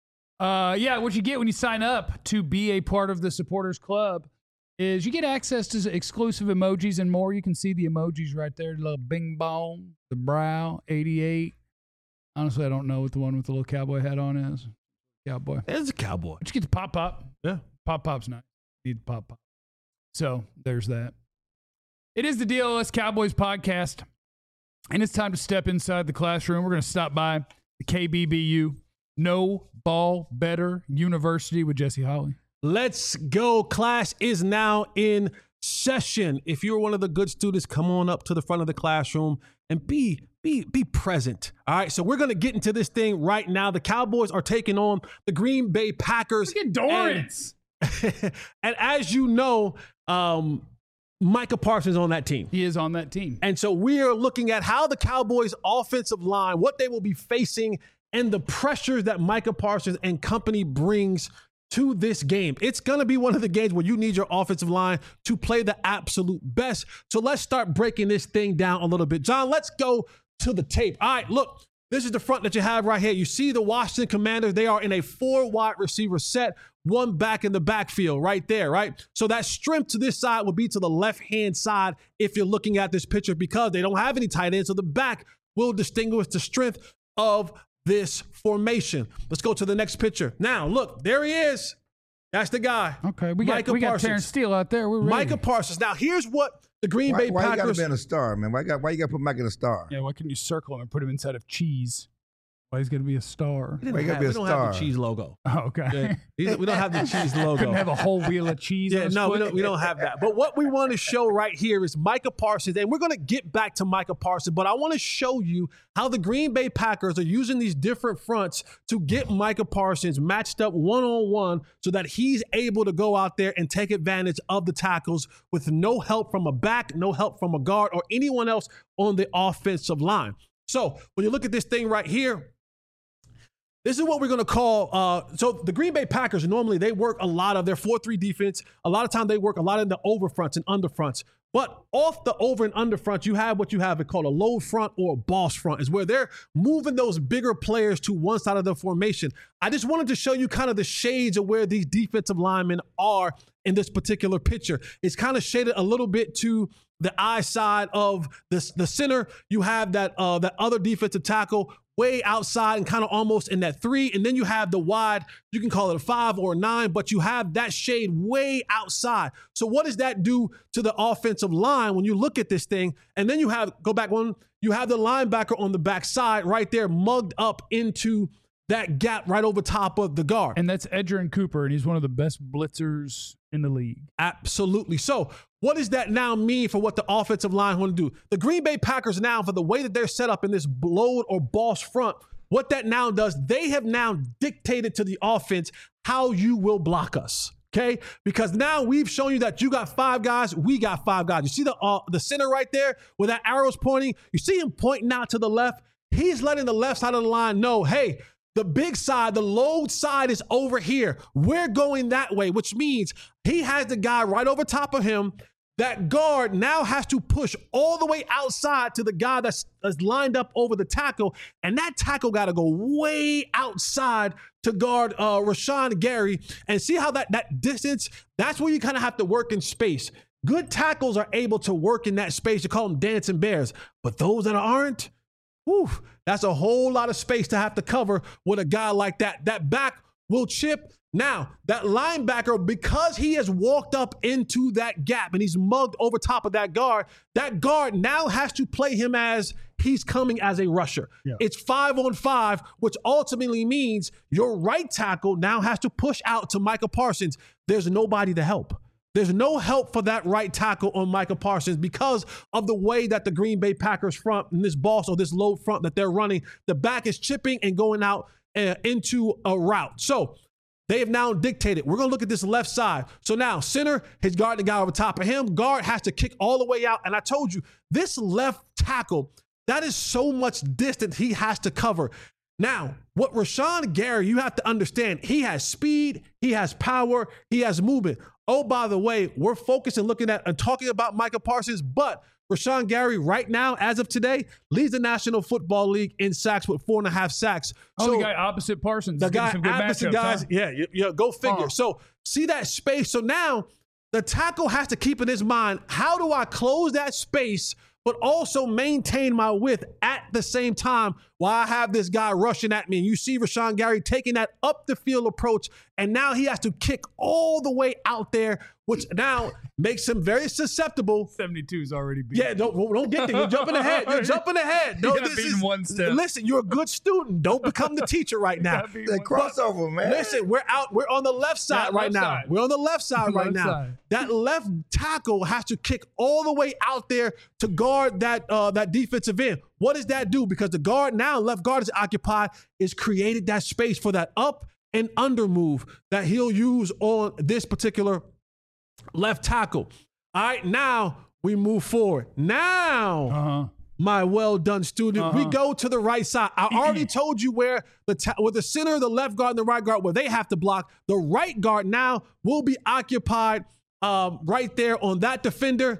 Uh, yeah, what you get when you sign up to be a part of the supporters club is you get access to exclusive emojis and more. You can see the emojis right there. The little bing bong, the brow, eighty-eight. Honestly, I don't know what the one with the little cowboy hat on is. Cowboy. It's a cowboy. But you get the pop pop. Yeah. Pop pop's nice. Need the pop pop. So there's that. It is the D L S Cowboys podcast, and it's time to step inside the classroom. We're going to stop by the K B B U, No Ball Better University with Jesse Holley. Let's go. Class is now in session. If you're one of the good students, come on up to the front of the classroom and be Be, be present. All right, so we're going to get into this thing right now. The Cowboys are taking on the Green Bay Packers. Look at Dorrance. And, and as you know, um, Micah Parsons is on that team. He is on that team. And so we are looking at how the Cowboys' offensive line, what they will be facing, and the pressures that Micah Parsons and company brings to this game. It's going to be one of the games where you need your offensive line to play the absolute best. So let's start breaking this thing down a little bit. John, let's go to the tape. All right, look, this is the front that you have right here. You see the Washington Commanders. They are in a four wide receiver set, one back in the backfield right there, right? So that strength to this side would be to the left-hand side if you're looking at this picture because they don't have any tight ends. So the back will distinguish the strength of this formation. Let's go to the next picture. Now, look, there he is. That's the guy. Okay, we got, Micah we got Parsons. Terrence Steele out there. We're ready. Micah Parsons. Now, here's what the Green why, Bay why Packers. Why you got to be in a star, man? Why you got why you got to put Mike in a star? Yeah, why couldn't you circle him and put him inside of cheese? Why he's going to be a star? We, Why you gotta have, be a we don't star? have the cheese logo. Oh, okay. Yeah. We don't have the cheese logo. Couldn't have a whole wheel of cheese. Yeah, on his no, we foot? don't, we don't have that. But what we want to show right here is Micah Parsons, and we're going to get back to Micah Parsons, but I want to show you how the Green Bay Packers are using these different fronts to get Micah Parsons matched up one-on-one so that he's able to go out there and take advantage of the tackles with no help from a back, no help from a guard, or anyone else on the offensive line. So when you look at this thing right here, This is what we're going to call, uh, so the Green Bay Packers, normally they work a lot of their four three defense. A lot of time they work a lot in the over fronts and under fronts. But off the over and under front, you have what you have called a load front or a boss front, is where they're moving those bigger players to one side of the formation. I just wanted to show you kind of the shades of where these defensive linemen are in this particular picture. It's kind of shaded a little bit to the eye side of the, the center. You have that uh, that other defensive tackle way outside and kind of almost in that three. And then you have the wide, you can call it a five or a nine, but you have that shade way outside. So what does that do to the offensive line when you look at this thing? And then you have, go back one, you have the linebacker on the backside right there mugged up into that gap right over top of the guard. And that's Edgerrin Cooper, and he's one of the best blitzers in the league. Absolutely. So what does that now mean for what the offensive line want to do? The Green Bay Packers now, for the way that they're set up in this load or boss front, what that now does, they have now dictated to the offense how you will block us. Okay, because now we've shown you that you got five guys, we got five guys. You see the uh, the center right there where that arrow's pointing? You see him pointing out to the left? He's letting the left side of the line know, hey, the big side, the load side is over here. We're going that way, which means he has the guy right over top of him. That guard now has to push all the way outside to the guy that's, that's lined up over the tackle. And that tackle got to go way outside to guard uh, Rashawn Gary. And see how that, that distance, that's where you kind of have to work in space. Good tackles are able to work in that space. You call them dancing bears. But those that aren't, whew, that's a whole lot of space to have to cover with a guy like that. That back will chip. Now, that linebacker, because he has walked up into that gap and he's mugged over top of that guard, that guard now has to play him as he's coming as a rusher. Yeah. It's five on five, which ultimately means your right tackle now has to push out to Micah Parsons. There's nobody to help. There's no help for that right tackle on Micah Parsons because of the way that the Green Bay Packers front and this boss or this low front that they're running, the back is chipping and going out uh, into a route. So they have now dictated. We're going to look at this left side. So now center, his guard, the guy over top of him. Guard has to kick all the way out. And I told you, this left tackle, that is so much distance he has to cover. Now, what Rashawn Gary, you have to understand, he has speed, he has power, he has movement. Oh, by the way, we're focusing, looking at and talking about Micah Parsons, but Rashawn Gary right now, as of today, leads the National Football League in sacks with four and a half sacks. Oh, so, the guy opposite Parsons. The guy some good opposite matchups, guys, huh? yeah, you, you, go figure. Oh. So see that space. So now the tackle has to keep in his mind, how do I close that space but also maintain my width at the same time while I have this guy rushing at me? And you see Rashawn Gary taking that up the field approach, and now he has to kick all the way out there, which now makes him very susceptible. seventy-two is already beat. Yeah, don't, don't get there. You're jumping ahead. You're jumping ahead. No, you got this beaten is, one step. Listen, you're a good student. Don't become the teacher right now. The crossover, man. Listen, we're out. We're on the left side That right left now. side. We're on the left side right Left now. side. That left tackle has to kick all the way out there to guard that uh, that defensive end. What does that do? Because the guard now, left guard is occupied, is created that space for that up and under move that he'll use on this particular left tackle. All right, now we move forward. Now, Uh-huh. my well done student, Uh-huh. we go to the right side. I already told you where the ta- with the center, the left guard, and the right guard, where they have to block. The right guard now will be occupied um, right there on that defender.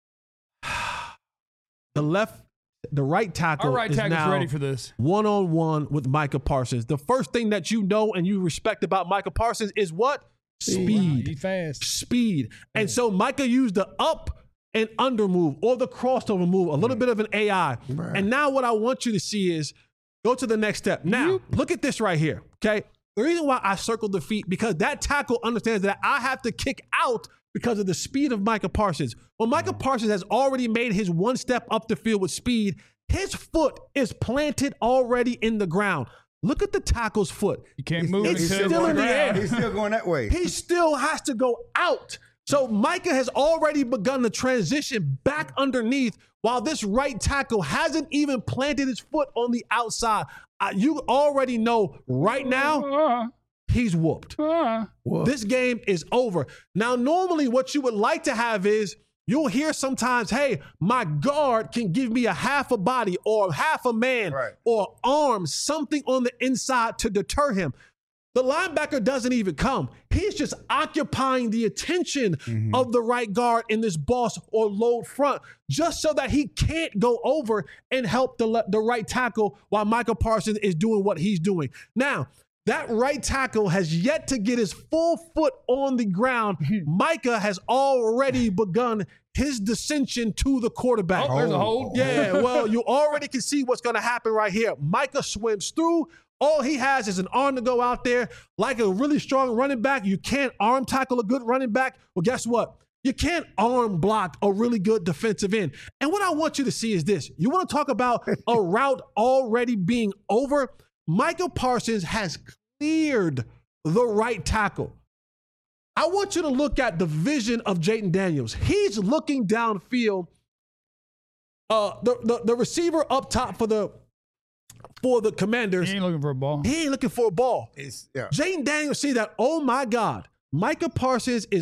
The left, the right tackle Our right is tackle's now ready for this. one-on-one with Micah Parsons. The first thing that you know and you respect about Micah Parsons is what? Speed. He fast. Speed. And so Micah used the up and under move or the crossover move, a little bit of an A I. Right. And now what I want you to see is go to the next step. Now, look at this right here, okay? The reason why I circled the feet, because that tackle understands that I have to kick out because of the speed of Micah Parsons. Well, Micah Parsons has already made his one step up the field with speed. His foot is planted already in the ground. Look at the tackle's foot. You can't move. It's He's still going in the around. air. He's still going that way. He still has to go out. So Micah has already begun to transition back underneath while this right tackle hasn't even planted his foot on the outside. Uh, you already know right now Uh, he's whooped. uh. This game is over. Now, normally what you would like to have is You'll hear sometimes, hey, my guard can give me a half a body or half a man Right. or arm, something on the inside to deter him. The linebacker doesn't even come. He's just occupying the attention mm-hmm. of the right guard in this boss or load front, just so that he can't go over and help the, the right tackle while Micah Parsons is doing what he's doing. Now, that right tackle has yet to get his full foot on the ground. Micah has already begun his descension to the quarterback. Oh, there's a hold. Yeah, well, you already can see what's going to happen right here. Micah swims through. All he has is an arm to go out there. Like a really strong running back, you can't arm tackle a good running back. Well, guess what? You can't arm block a really good defensive end. And what I want you to see is this. You want to talk about a route already being over? Micah Parsons has cleared the right tackle. I want you to look at the vision of Jayden Daniels. He's looking downfield. Uh, the, the, the receiver up top for the for the Commanders. He ain't looking for a ball. He ain't looking for a ball. It's, yeah. Jayden Daniels see that, oh my God, Micah Parsons is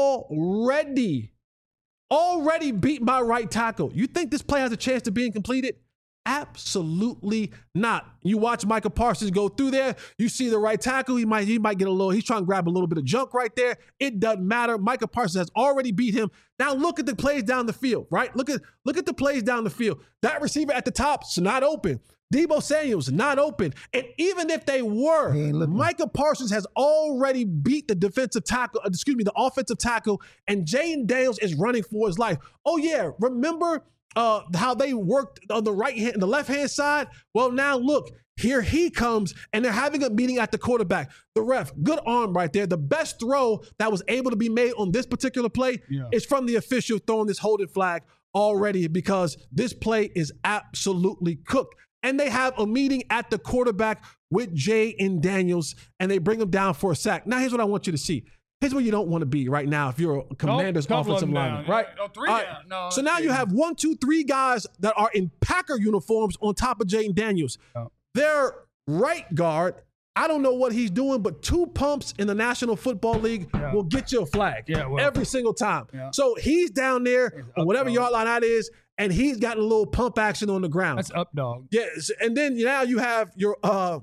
already, already beat by right tackle. You think this play has a chance of being completed? Absolutely not. You watch Micah Parsons go through there. You see the right tackle. He might, he might get a little, he's trying to grab a little bit of junk right there. It doesn't matter. Micah Parsons has already beat him. Now look at the plays down the field, right? Look at, look at the plays down the field. That receiver at the top's not open. Debo Samuel's not open. And even if they were, Micah Parsons has already beat the defensive tackle, excuse me, the offensive tackle, and Jayden Daniels is running for his life. Oh yeah, remember uh, how they worked on the right hand, the left hand side? Well, now look, here he comes, and they're having a meeting at the quarterback. The ref, good arm right there. The best throw that was able to be made on this particular play yeah. is from the official throwing this holding flag already, because this play is absolutely cooked. And they have a meeting at the quarterback with Jayden Daniels, and they bring him down for a sack. Now, here's what I want you to see. Here's where you don't want to be right now if you're a Commander's nope, offensive lineman, right? No, three right. down. No, so now you have one, two, three guys that are in Packer uniforms on top of Jayden Daniels. Oh. Their right guard, I don't know what he's doing, but two pumps in the National Football League yeah. will get you a flag yeah, well, every single time. Yeah. So he's down there on whatever dog. yard line that is, and he's got a little pump action on the ground. That's up, dog. Yes, and then now you have your uh,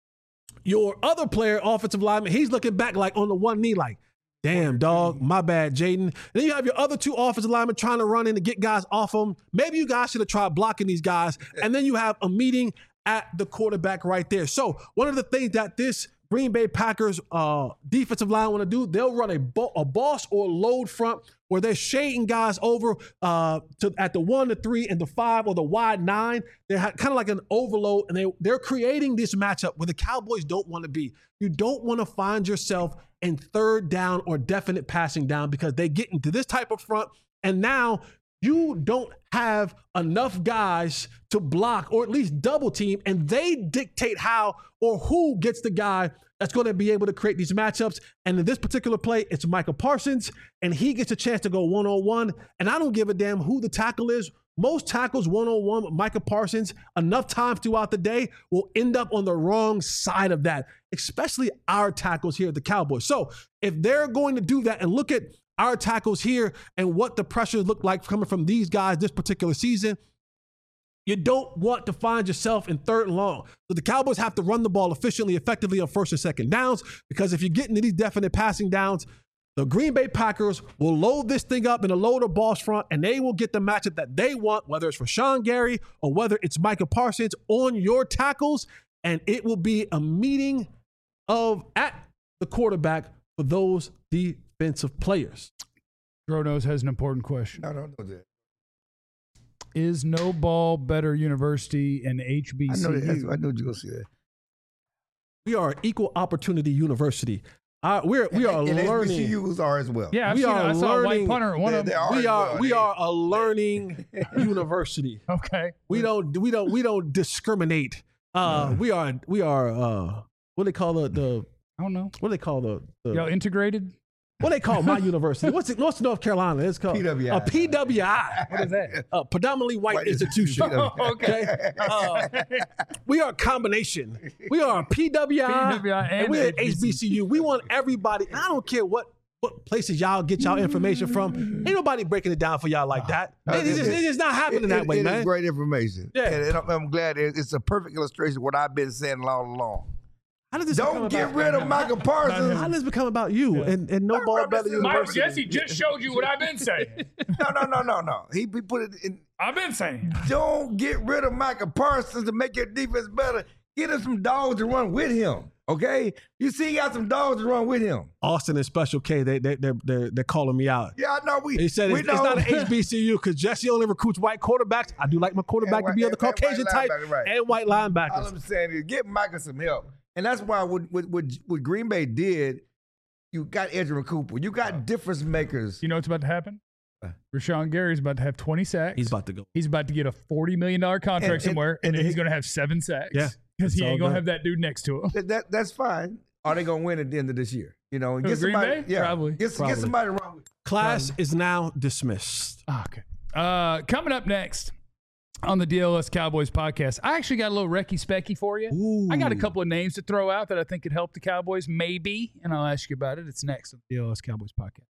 your other player, offensive lineman. He's looking back like on the one knee, like, damn, dog, my bad, Jayden. Then you have your other two offensive linemen trying to run in to get guys off them. Maybe you guys should have tried blocking these guys. And then you have a meeting at the quarterback right there. So one of the things that this Green Bay Packers uh, defensive line want to do, they'll run a, bo- a boss or load front where they're shading guys over uh, to at the one, the three, and the five, or the wide nine. They're ha- kind of like an overload, and they, they're creating this matchup where the Cowboys don't want to be. You don't want to find yourself in third down or definite passing down, because they get into this type of front, and now you don't have enough guys to block or at least double team, and they dictate how or who gets the guy that's going to be able to create these matchups. And in this particular play, it's Micah Parsons, and he gets a chance to go one-on-one, and I don't give a damn who the tackle is. Most tackles one-on-one with Micah Parsons enough times throughout the day will end up on the wrong side of that, especially our tackles here at the Cowboys. So if they're going to do that and look at our tackles here and what the pressure looked like coming from these guys this particular season, you don't want to find yourself in third and long. So the Cowboys have to run the ball efficiently, effectively on first and second downs, because if you get into these definite passing downs, the Green Bay Packers will load this thing up in a loader boss front, and they will get the matchup that they want, whether it's Rashawn Gary or whether it's Micah Parsons on your tackles, and it will be a meeting of at the quarterback for those defensive players. Dronos has an important question. I don't know that. Is No Ball Better University and H B C U? I know, that, I know you're going to see that. We are an equal opportunity university. Uh, we're we are and, and learning. H B C Us are as well. Yeah, I've we seen, are I saw learning. a white punter. One they, of they them. are We are well. we they, are a learning university. Okay. We don't we don't we don't discriminate. Uh, we are we are uh, what do they call the the I don't know. what do they call the, the Y'all integrated? what do they call my university? What's it? What's North Carolina? It's called P W I. a P W I. What is that? A predominantly white, White institution. institution. Oh, okay. Uh, we are a combination. We are a P W I, P W I and and we're at H B C U. H B C U. We want everybody. I don't care what what places y'all get y'all information from. Ain't nobody breaking it down for y'all like that. Uh, It's, just, it- it's just not happening It- that it- way, it man. is great information. Yeah. And, and I'm, I'm glad it- it's a perfect illustration of what I've been saying all along. How did this become Don't get about, rid of Michael Parsons. How did this become about you and, and no ball better Mike, Mike university? Jesse just showed you what I've been saying. No, no, no, no, no. He, he put it in. I've been saying. Don't get rid of Michael Parsons to make your defense better. Get him some dogs to run with him. Okay, you see, he got some dogs to run with him. Austin and Special K, they they they they're, they're calling me out. Yeah, I know. We He said we it's, it's know. not an H B C U because Jesse only recruits white quarterbacks. I do like my quarterback And to be white- of the and- and Caucasian white type linebacker, right. and white All linebackers. I'm saying is get Michael some help, and that's why what what what, what Green Bay did. You got Edgerrin Cooper. You got difference makers. You know what's about to happen? Rashawn Gary's about to have twenty sacks. He's about to go. He's about to get a forty million dollars contract And- and- somewhere, and, and then he's he- going to have seven sacks. Yeah, Because he it's ain't all going to good. have that dude next to him. That, that that's fine. Are they gonna win at the end of this year? You know, and Who, get Green somebody. Bay? Yeah, Probably. Get, Probably. get somebody wrong with. Class is now dismissed. Ah, okay. Uh, coming up next on the D L S Cowboys podcast, I actually got a little Recky Specky for you. Ooh. I got a couple of names to throw out that I think could help the Cowboys, maybe, and I'll ask you about it. It's next on the D L S Cowboys podcast.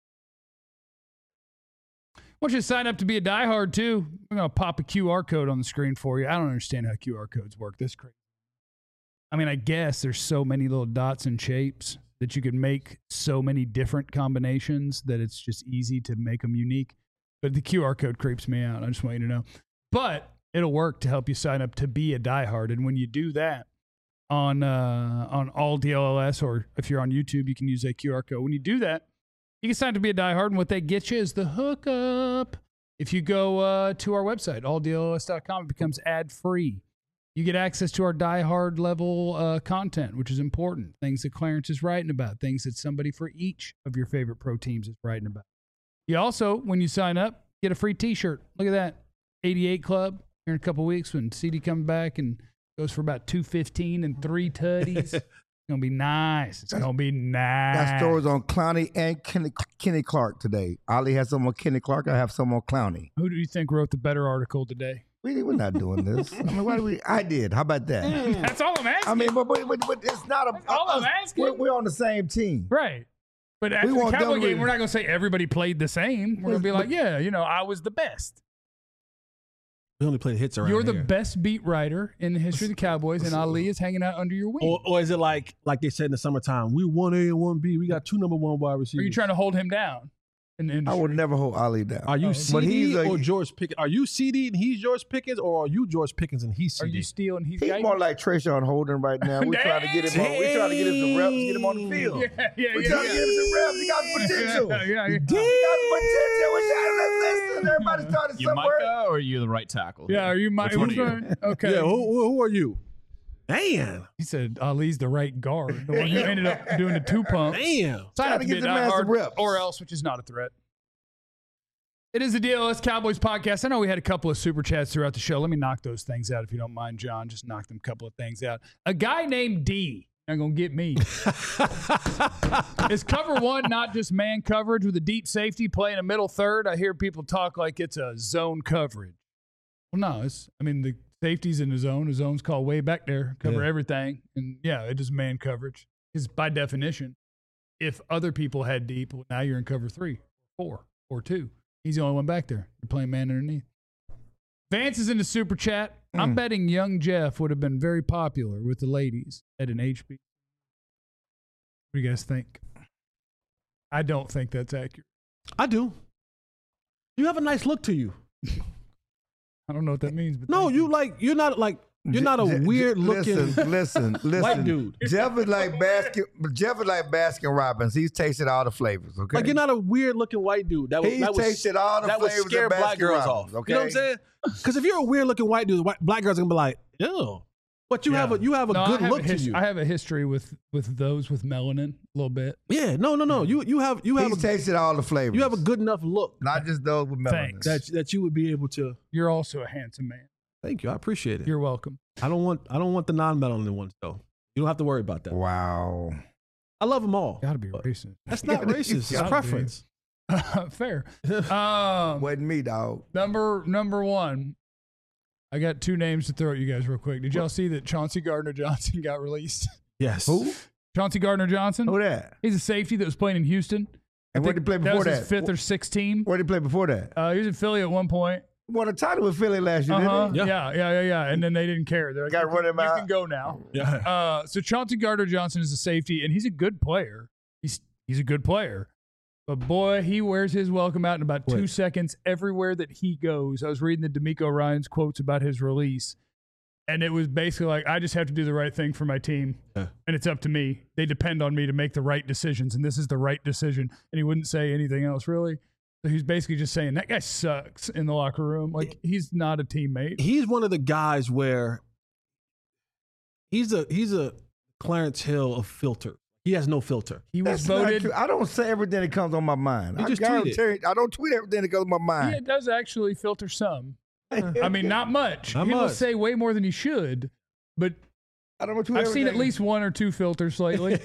I want you to sign up to be a diehard, too. We're going to pop a Q R code on the screen for you. I don't understand how Q R codes work. This crazy. I mean, I guess there's so many little dots and shapes that you can make so many different combinations that it's just easy to make them unique. But the Q R code creeps me out. I just want you to know. But it'll work to help you sign up to be a diehard. And when you do that on uh, on all D L S, or if you're on YouTube, you can use that Q R code. When you do that, you can sign up to be a diehard. And what they get you is the hookup. If you go uh, to our website, all D L S dot com, it becomes ad-free. You get access to our diehard level uh, content, which is important. Things that Clarence is writing about, things that somebody for each of your favorite pro teams is writing about. You also, when you sign up, get a free T-shirt. Look at that, eighty-eight Club. Here in a couple weeks when C D comes back and goes for about two fifteen and three tutties. It's gonna be nice. It's gonna be nice. Got stories on Clowney and Kenny, Kenny Clark today. Ali has some on Kenny Clark. I have some on Clowney. Who do you think wrote the better article today? We, we're not doing this. I mean, why do we? I did. How about that? That's all I'm asking. I mean, but, but, but, but it's not a. That's all I'm asking. We're, we're on the same team. Right. But after the want Cowboy them game, with- we're not going to say everybody played the same. We're going to be like, yeah, you know, I was the best. We only play hits around You're the here. best beat writer in the history of the Cowboys, and Ali is hanging out under your wing. Or, or is it like like they said in the summertime? We one A and one B. We got two number one wide receivers. Are you trying to hold him down? In the I industry? would never hold Ali down. Are you Oh, C but D he's a- or George Pickens? Are you C D and he's George Pickens, or are you George Pickens and he's C Are D? you stealing? He's He's got more like Trayshawn Holden right now. We're trying to get him. On, we're trying to get him some reps, get him on the field. Yeah, yeah, We're yeah. trying yeah. to get him some reps. He got potential. Yeah, yeah, yeah. He got potential. We're trying to listen. Everybody started You somewhere. Micah or are you the right tackle? Yeah, are you my? Which one are who's you? right? Okay. Yeah, who, who, who are you? Damn, He said Ali's the right guard, the one who ended up doing the two pumps. damn. Sign Trying up to to get be a the man some diehard, reps. or else, which is not a threat. It is the D L S Cowboys podcast. I know we had a couple of super chats throughout the show. Let me knock those things out if you don't mind, John. Just knock them a couple of things out. A guy named D, not going to get me. Is cover one not just man coverage with a deep safety playing a middle third? I hear people talk like it's a zone coverage. Well, no, it's, I mean, the safety's in the zone. The zone's called way back there, cover Yeah. everything. And yeah, it is man coverage. Because by definition, if other people had deep, well, now you're in cover three, four, or two. He's the only one back there. You're playing man underneath. Vance is in the super chat. I'm Mm. betting young Jeff would have been very popular with the ladies at an H B. What do you guys think? I don't think that's accurate. I do. You have a nice look to you. I don't know what that means. But No, thank you like you're not like you're not a Je- Je- weird looking Listen, listen, listen. white dude. Jeff is like Baskin. Jeff is like Baskin Robbins. He's tasted all the flavors. Okay. Like you're not a weird looking white dude. That was He's that was tasted all the that would flavors scare of black Baskin girls Robbins, off. okay? You know what I'm saying? Because if you're a weird looking white dude, white, black girls are gonna be like, ew. But you Yeah. have a you have a No, good I have look a to his- you. I have a history with with those with melanin a little bit. yeah, no, no, no. You you have you have He's a, tasted all the flavors. you have a good enough look not just those with melanin. Thanks. that that you would be able to. You're also a handsome man. Thank you. I appreciate it. You're welcome. I don't want I don't want the non-melanin ones though. You don't have to worry about that. Wow. I love them all. Got to be but racist. That's not Gotta be- racist. It's gotta be. preference. Fair. Um, Wasn't me, dog. number number one. I got two names to throw at you guys real quick. Did y'all see that Chauncey Gardner-Johnson got released? Yes. Who? Chauncey Gardner-Johnson. Who that? He's a safety that was playing in Houston. And where did he play That before was that? his fifth or sixth team. Where did he play before that? Uh, he was in Philly at one point. Won a title with Philly last year, Uh-huh. didn't he? Yeah. yeah, yeah, yeah, yeah. And then they didn't care. They're like, Gotta you, run can, him you out. can go now. Yeah. Uh, so Chauncey Gardner-Johnson is a safety, and he's a good player. He's he's a good player. But, boy, he wears his welcome out in about Wait. two seconds everywhere that he goes. I was reading the D'Amico Ryans quotes about his release, and it was basically like, I just have to do the right thing for my team, Yeah. and it's up to me. They depend on me to make the right decisions, and this is the right decision. And he wouldn't say anything else, really. So he's basically just saying, that guy sucks in the locker room. Like, he's not a teammate. He's one of the guys where he's a he's a Clarence Hill of filter. He has no filter. He was That's not voted. true. I don't say everything that comes on my mind. You I, just gotta tweet it. tell you, I don't tweet everything that comes on my Yeah, mind. it does actually filter some. I mean, not much. Not he will much. say way more than he should, but I don't tweet I've seen at everything. least one or two filters lately.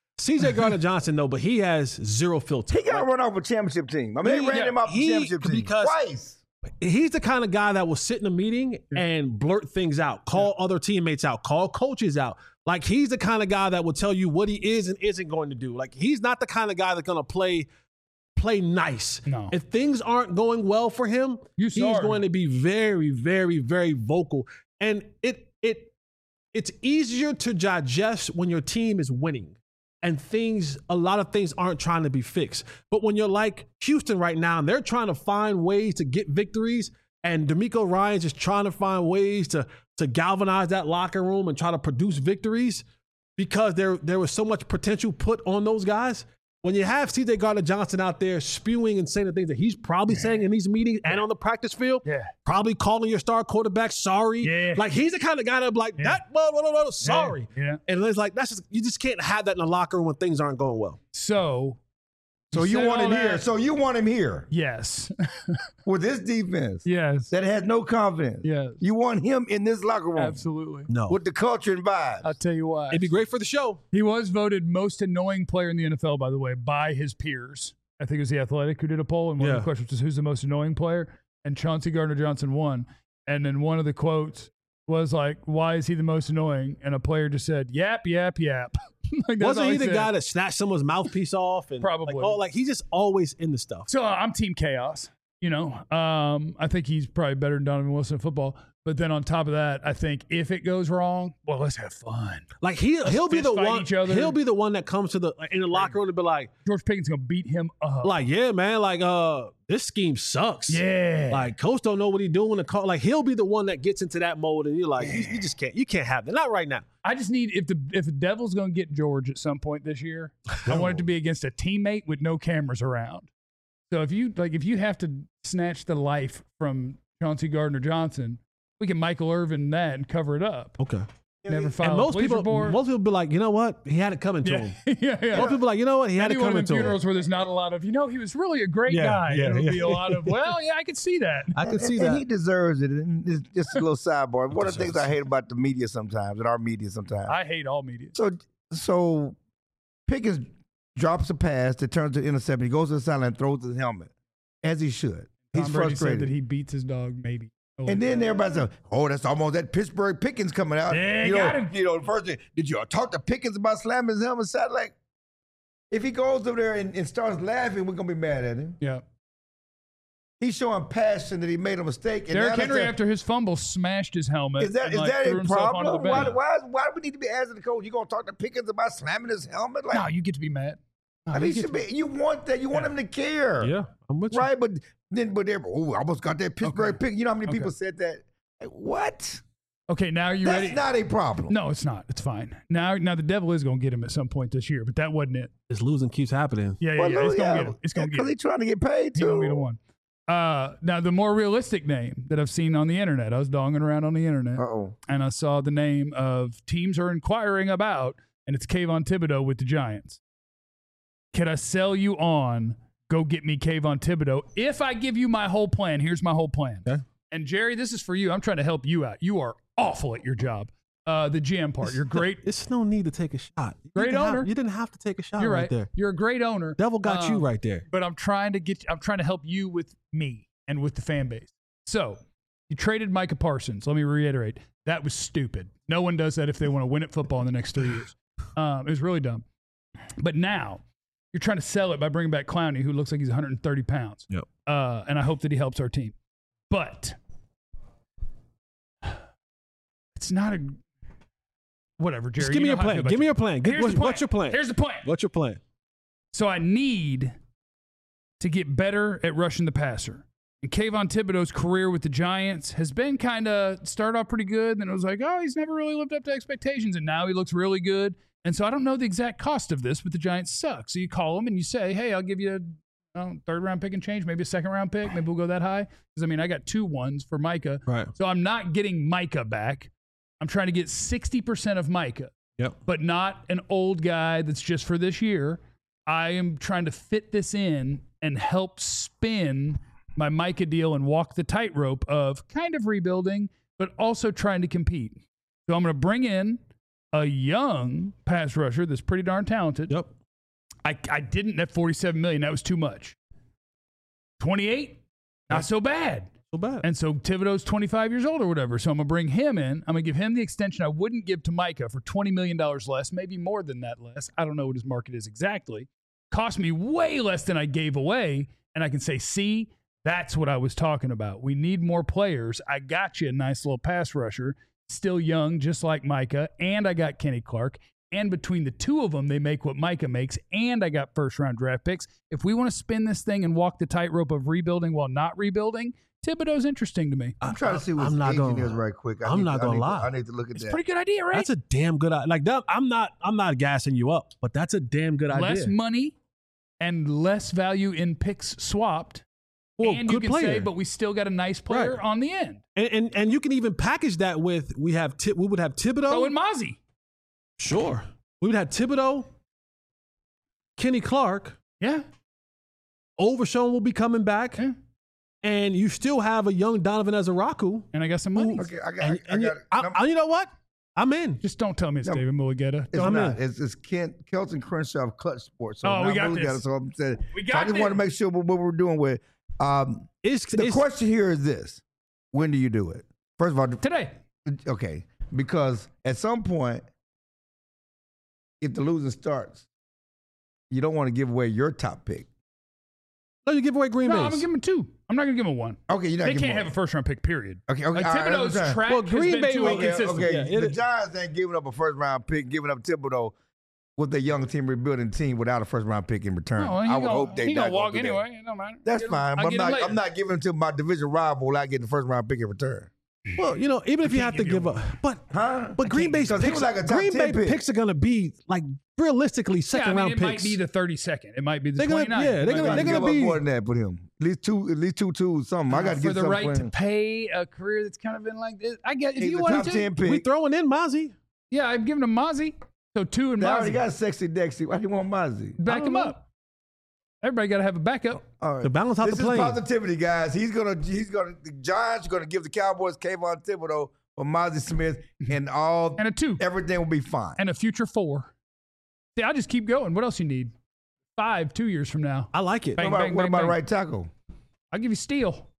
C J Gardner-Johnson, though, but he has zero filter. He got run off a championship team. I mean, He- they ran yeah, him off he- a championship team because- twice. He's the kind of guy that will sit in a meeting and blurt things out, call other teammates out, call coaches out. Like, he's the kind of guy that will tell you what he is and isn't going to do. Like, he's not the kind of guy that's going to play play nice. No. If things aren't going well for him, You he's saw him. going to be very, very, very vocal. And it it it's easier to digest when your team is winning and things, a lot of things aren't trying to be fixed. But when you're like Houston right now, and they're trying to find ways to get victories, and D'Amico Ryans is trying to find ways to to galvanize that locker room and try to produce victories because there there was so much potential put on those guys. When you have C J Gardner-Johnson out there spewing and saying the things that he's probably saying in these meetings and on the practice field, Yeah. probably calling your star quarterback sorry. Yeah. Like, he's the kind of guy that be like, Yeah. that, blah, blah, blah, blah, sorry. Yeah. And it's like, that's just, you just can't have that in the locker room when things aren't going well. So, So you said want all him here. that- So you want him here Yes. with this defense yes. that has no confidence. Yes. You want him in this locker room Absolutely. No. with the culture and vibes. I'll tell you why. It'd be great for the show. He was voted most annoying player in the N F L, by the way, by his peers. I think it was The Athletic who did a poll, and one of Yeah. the questions was, who's the most annoying player? And Chauncey Gardner-Johnson won. And then one of the quotes was like, why is he the most annoying? And a player just said, yap, yap, yap. Like, that's Wasn't all he the said. guy that snatched someone's mouthpiece off? And Probably. Like, oh, like he's just always in the stuff. So uh, I'm Team Chaos. You know, um, I think he's probably better than Donovan Wilson in football. But then on top of that, I think if it goes wrong, well, let's have fun. Like he he'll be fist the fight one. each other. He'll be the one that comes to the in the locker room to be like, George Pickens gonna beat him up. like yeah, man, like uh, this scheme sucks. yeah, Like coach don't know what he's doing. The call, like he'll be the one that gets into that mode, and you're like, you, you just can't, you can't have that. Not right now. I just need if the if the Devil's gonna get George at some point this year, I want it to be against a teammate with no cameras around. So if you like, if you have to snatch the life from Chauncey Gardner-Johnson, we can Michael Irvin that and cover it up. Okay. Never file And a most police people, report. most people be like, you know what? He had it coming to yeah, him. yeah, yeah. Most people be like, you know what? He had Maybe it one of coming them to him. funerals where there's not a lot of, you know, he was really a great Yeah, guy. yeah, It'll yeah. be a lot of, well, yeah, I can see that. I could And- see and that. he deserves it. And it's just a little sidebar. One of the things I hate about the media sometimes, and our media sometimes. I hate all media. So, so Pickens drops a pass that turns to interception. He goes to the sideline and throws his helmet, as he should. He's Tom Brady frustrated. said that he beats his dog, maybe. Oh, And then everybody said, "Oh, that's almost that Pittsburgh Pickens coming out." Yeah, you got know, him. you know. The first thing, did you talk to Pickens about slamming his helmet? Side like, if he goes over there and, and starts laughing, we're gonna be mad at him. yeah. He's showing passion that he made a mistake. And Derrick now Henry, that's a- after his fumble, smashed his helmet. Is that and, is like, that threw a himself onto problem? the Why, bench. why why do we need to be asking the coach? You gonna talk to Pickens about slamming his helmet? Like, No, you get to be mad. No, I you mean, get should to- be, you want that? You want Yeah. him to care, Yeah, I'm with you. right? But then, but they're oh, I almost got that Pittsburgh Okay. pick. You know how many people Okay. said that? Like, what? Okay, now are you That's ready? not a problem. No, it's not. It's fine. Now, now the devil is going to get him at some point this year, but that wasn't it. This losing keeps happening. Yeah, yeah, Well, yeah. It's yeah, going to get him. It's going to because get him. he's trying to get paid He's too. going to be the one. Uh, now, the more realistic name that I've seen on the internet, I was donging around on the internet, Uh oh. and I saw the name of teams are inquiring about, and it's Kayvon Thibodeau with the Giants. Can I sell you on? Go get me Kayvon Thibodeau. If I give you my whole plan, here's my whole plan. Okay. And Jerry, this is for you. I'm trying to help you out. You are awful at your job. Uh, the G M part. You're great. It's no need to take a shot. You Great didn't have- owner. you didn't have to take a shot You're right, right. there. You're a great owner. Devil got you Um, right there. But I'm trying to get. I'm trying to help you with me and with the fan base. So you traded Micah Parsons. Let me reiterate. That was stupid. No one does that if they want to win at football in the next three years. Um, it was really dumb. But now you're trying to sell it by bringing back Clowney, who looks like he's one hundred thirty pounds. Yep. Uh, and I hope that he helps our team. But it's not a whatever, Jerry. Just give me you your know how I plan. feel about Give me you. your plan. Give, Here's what's, the plan. what's your plan? Here's the plan. What's your plan? So I need to get better at rushing the passer. And Kayvon Thibodeau's career with the Giants has been kind of started off pretty good. Then it was like, oh, he's never really lived up to expectations. And now he looks really good. And so I don't know the exact cost of this, but the Giants suck. So you call him and you say, hey, I'll give you a oh, third round pick and change, maybe a second round pick. Maybe we'll go that high. Because, I mean, I got two ones for Micah. Right. So I'm not getting Micah back. I'm trying to get sixty percent of Micah. Yep. But not an old guy that's just for this year. I am trying to fit this in and help spin my Micah deal and walk the tightrope of kind of rebuilding, but also trying to compete. So I'm going to bring in a young pass rusher that's pretty darn talented. Yep. I, I didn't at forty-seven million dollars. That was too much. twenty-eight, not so bad. So bad. And so Thibodeau's twenty-five years old or whatever. So I'm going to bring him in. I'm going to give him the extension I wouldn't give to Micah for twenty million dollars less, maybe more than that less. I don't know what his market is exactly. Cost me way less than I gave away. And I can say, see, that's what I was talking about. We need more players. I got you a nice little pass rusher, still young, just like Micah. And I got Kenny Clark. And between the two of them, they make what Micah makes. And I got first-round draft picks. If we want to spin this thing and walk the tightrope of rebuilding while not rebuilding, Thibodeau's interesting to me. I'm trying to see what I'm his not agent gonna- is right quick. I I'm need not to- I gonna need to- lie. I need to look at It's a that. pretty good idea, right? That's a damn good idea. Like that, I'm not. I'm not gassing you up, but that's a damn good Less idea. money and less value in picks swapped. Well, and good you can player. say, but we still got a nice player Right. on the end. And, and and you can even package that with we have Ti- we would have Thibodeau. Oh, and Mozzie. Sure. We would have Thibodeau, Kenny Clark, Yeah. Overshown will be coming back, Yeah. and you still have a young Donovan Ezeraku. And I got some money. Okay, I got. And, I, and I you, got. I, num- I- you know what? I'm in. Just don't tell me it's No. David Mulligetta. It's I'm not. in. It's, it's Kent, Kelton Crenshaw of Clutch Sports. So Oh, we now got Mully this. it, so I'm saying. We so I got just want to this. make sure what, what we're doing with. Um, It's, the it's question here is this: when do you do it? First of all, Today. okay, because at some point, if the losing starts, you don't want to give away your top pick. no, you give away Green No, Bay. I'm going to give him two. I'm not going to give him one. Okay, you're not. They giving can't away. have a first round pick, period. Okay, okay. Like all right, Thibodeau's that's track Well, has Green been Bay too will- Okay, inconsistent. okay. Yeah, it the is. Giants ain't giving up a first round pick, giving up Thibodeau with a young team rebuilding team without a first round pick in return. No, he I would gonna, hope they he not gonna walk do that. anyway. It don't matter. That's Get him- fine, I'll but I'm get him not, later. I'm not giving it to my division rival without getting the first round pick in return. Well, you know, even if you have can't to give give you up, but Huh? but Green Bay's because he picks, was like a top Green ten Bay pick. picks are gonna be like realistically Yeah, second I mean, round it picks. might be the thirty-second. It might be the They're gonna- twenty-ninth. yeah, It they're might gonna- be- they're give gonna up be- more than that for him. At least two, at least two twos, something. I got to for get the something right for to him. pay a career that's kind of been like this. I guess if He's you a wanted top to. ten pick. we throwing in Mozzie. Yeah, I'm giving him Mozzie. So two and They already Mozzie. got Sexy Dexy. Why do you want Mozzie? Back don't him know. up. Everybody got to have a backup. All right. To balance out this the is plane. positivity, guys. He's gonna, he's gonna. The Giants are gonna give the Cowboys Kayvon Thibodeau or Mozzie Smith, and all And a two. everything will be fine. And a future four. See, I'll just keep going. What else you need? Five, two years from now. I like it. Bang, what about, bang, what bang, about bang. right tackle? I'll give you Steele.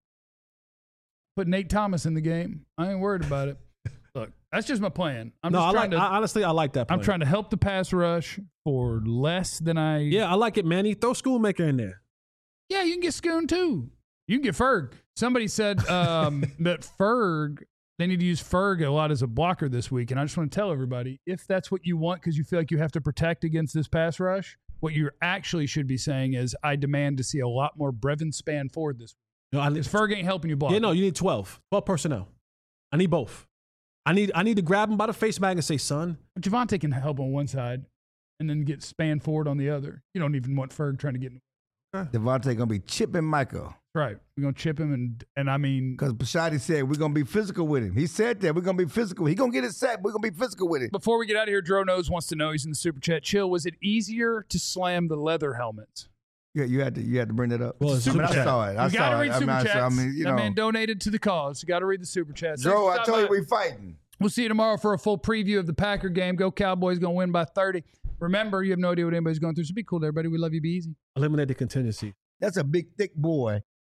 Put Nate Thomas in the game. I ain't worried about it. Look, that's just my plan. I'm no, just I trying like. to. I, honestly, I like that. I'm plan. trying to help the pass rush for less than I. Yeah, I like it, Manny. Throw Schoolmaker in there. Yeah, you can get Schoon too. You can get Ferg. Somebody said um, that Ferg, they need to use Ferg a lot as a blocker this week. And I just want to tell everybody, if that's what you want because you feel like you have to protect against this pass rush, what you actually should be saying is, I demand to see a lot more Brevin Spanford this week. No, I, Because Ferg ain't helping you block. yeah, no, you need twelve. twelve personnel. I need both. I need I need to grab him by the face bag and say, son. Javante can help on one side and then get Spanford on the other. You don't even want Ferg trying to get in. Devontae gonna be chipping Michael Right. We're going to chip him. And, and I mean, because Bashadi said we're gonna be physical with him. He said that we're gonna be physical. He gonna get it set. We're gonna be physical with it. before we get out of here, Dro Knows wants to know, he's in the super chat. Chill, was it easier to slam the leather helmets? Yeah, you had to you had to bring that up. Well, it's I mean, super I chat. saw it. I You got to saw read it. I super mean, I, chats. saw, I mean, you that know, man donated to the cause. You got to read the super chats. Joe, I Thanks for told you stopping we by. fighting. We'll see you tomorrow for a full preview of the Packer game. Go Cowboys, going to win by thirty. Remember, you have no idea what anybody's going through, so be cool, everybody. We love you. Be easy. Eliminate the contingency. That's a big thick boy.